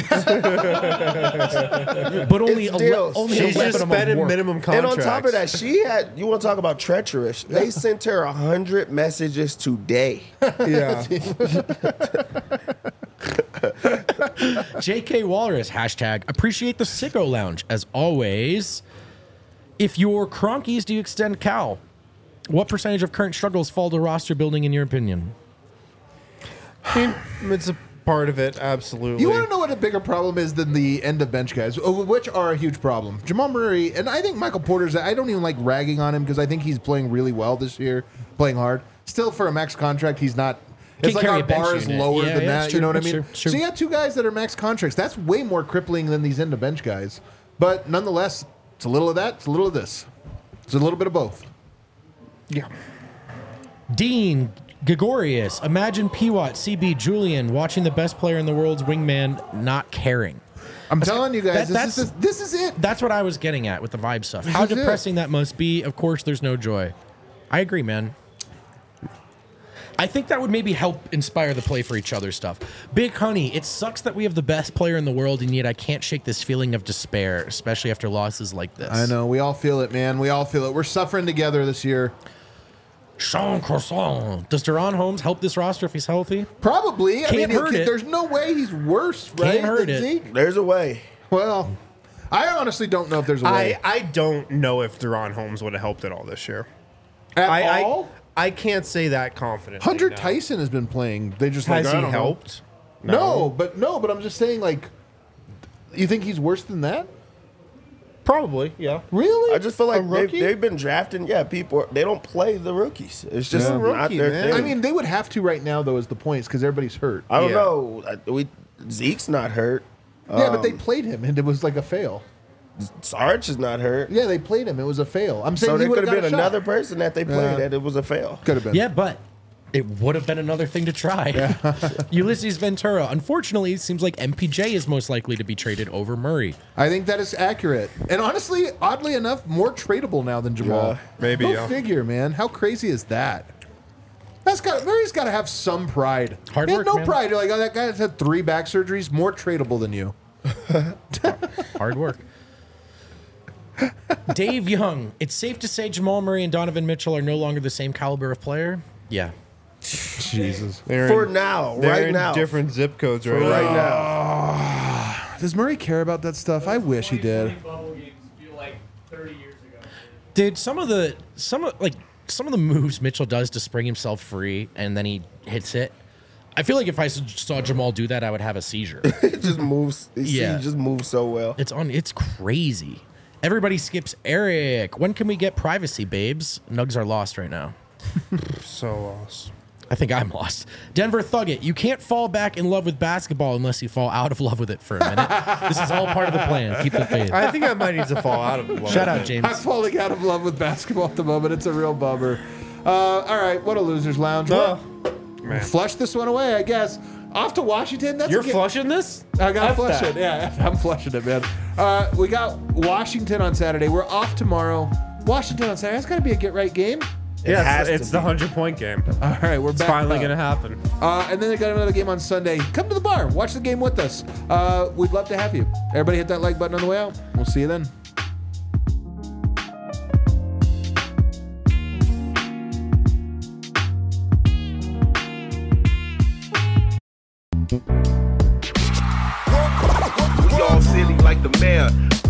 But only It's ele- deals. only She's eleven just of them spending work. minimum And contracts. on top of that, she had. You want to talk about treacherous? They sent her a hundred messages today. yeah. J K Walrus, hashtag appreciate the Sicko Lounge. As always, if you're Cronkies, do you extend Cal? What percentage of current struggles fall to roster building in your opinion? It's a part of it, absolutely. You want to know what a bigger problem is than the end of bench guys, uh, which are a huge problem. Jamal Murray, and I think Michael Porter's, I don't even like ragging on him because I think he's playing really well this year, playing hard. Still, for a max contract, he's not. It's Can't like carry our a bench bar is unit. lower Yeah, than yeah, that. it's You true, know what I it's mean? true, it's true. So you got two guys that are max contracts. That's way more crippling than these end of bench guys. But nonetheless, it's a little of that, it's a little of this. It's a little bit of both. Yeah. Dean Gregorius, imagine P W A T, C B, Julian watching the best player in the world's wingman not caring. I'm telling you guys, that- this, is, this is it. That's what I was getting at with the vibe stuff. How is it. depressing that must be. Of course, there's no joy. I agree, man. I think that would maybe help inspire the play for each other stuff. Big Honey, it sucks that we have the best player in the world, and yet I can't shake this feeling of despair, especially after losses like this. I know. We all feel it, man. We all feel it. We're suffering together this year. Sean Croissant. Does Deron Holmes help this roster if he's healthy? Probably. I Can't mean, hurt it. there's no way he's worse, right? hurt than it. Zeke? There's a way. Well, I honestly don't know if there's a way. I, I don't know if Deron Holmes would have helped at all this year. At I, all? I I can't say that confidently. Hunter no. Tyson has been playing. They just Has like, I he don't know. helped? No. but no, but I'm just saying, like, you think he's worse than that? Probably, yeah. Really? I just feel like A they've, rookie? they've been drafting. Yeah, people they don't play the rookies. It's just Yeah. not Rookie, their man. thing. I mean, they would have to right now, though, as the points because everybody's hurt. I don't Yeah. know. I- We Zeke's not hurt. yeah, but they Um, played him, and it was like a fail. Sarge is not hurt. Yeah, they played him. It was a fail. I'm saying So he there would could have have been got a another shot. person that they played Yeah. that it was a fail. Could have been. Yeah, but it would have been another thing to try. Ulysses Ventura. Unfortunately, it seems like M P J is most likely to be traded over Murray. I think that is accurate. And honestly, oddly enough, more tradable now than Jamal. Yeah, maybe, Go yeah. figure, man. How crazy is that? That's got Murray's got to have some pride. Hard he had work, no man. pride. Like, oh, that guy has had three back surgeries, more tradable than you. Hard work. Dave Young. It's safe to say Jamal Murray and Donovan Mitchell are no longer the same caliber of player. Yeah. Jesus. They're For in, now, they're right in now. different zip codes right, Right now. now. Does Murray care about that stuff? I wish he did. twenty bubble games feel like thirty years ago. Dude, some of the some of like some of the moves Mitchell does to spring himself free and then he hits it. I feel like if I s- saw Jamal do that, I would have a seizure. It just moves. Yeah. He just moves so well. It's on. It's crazy. Everybody skips Eric. When can we get privacy, babes? Nugs are lost right now. So lost. I think I'm lost. Denver Thug It. You can't fall back in love with basketball unless you fall out of love with it for a minute. This is all part of the plan. Keep the faith. I think I might need to fall out of love. Shout out, I'm James. falling out of love with basketball at the moment. It's a real bummer. Uh, all right, what a loser's lounge. Oh, Well, man. flush this one away, I guess. Off to Washington. That's You're a ga- flushing this? I got to F flush that. it. Yeah, I'm flushing it, man. Uh, we got Washington on Saturday. We're off tomorrow. Washington on Saturday. That's got to be a get right game. Yeah, has it's, to it's the be. hundred point game. All right, we're It's back. finally up. gonna happen. Uh, and then they got another game on Sunday. Come to the bar. Watch the game with us. Uh, we'd love to have you. Everybody hit that like button on the way out. We'll see you then. We all silly like the mayor.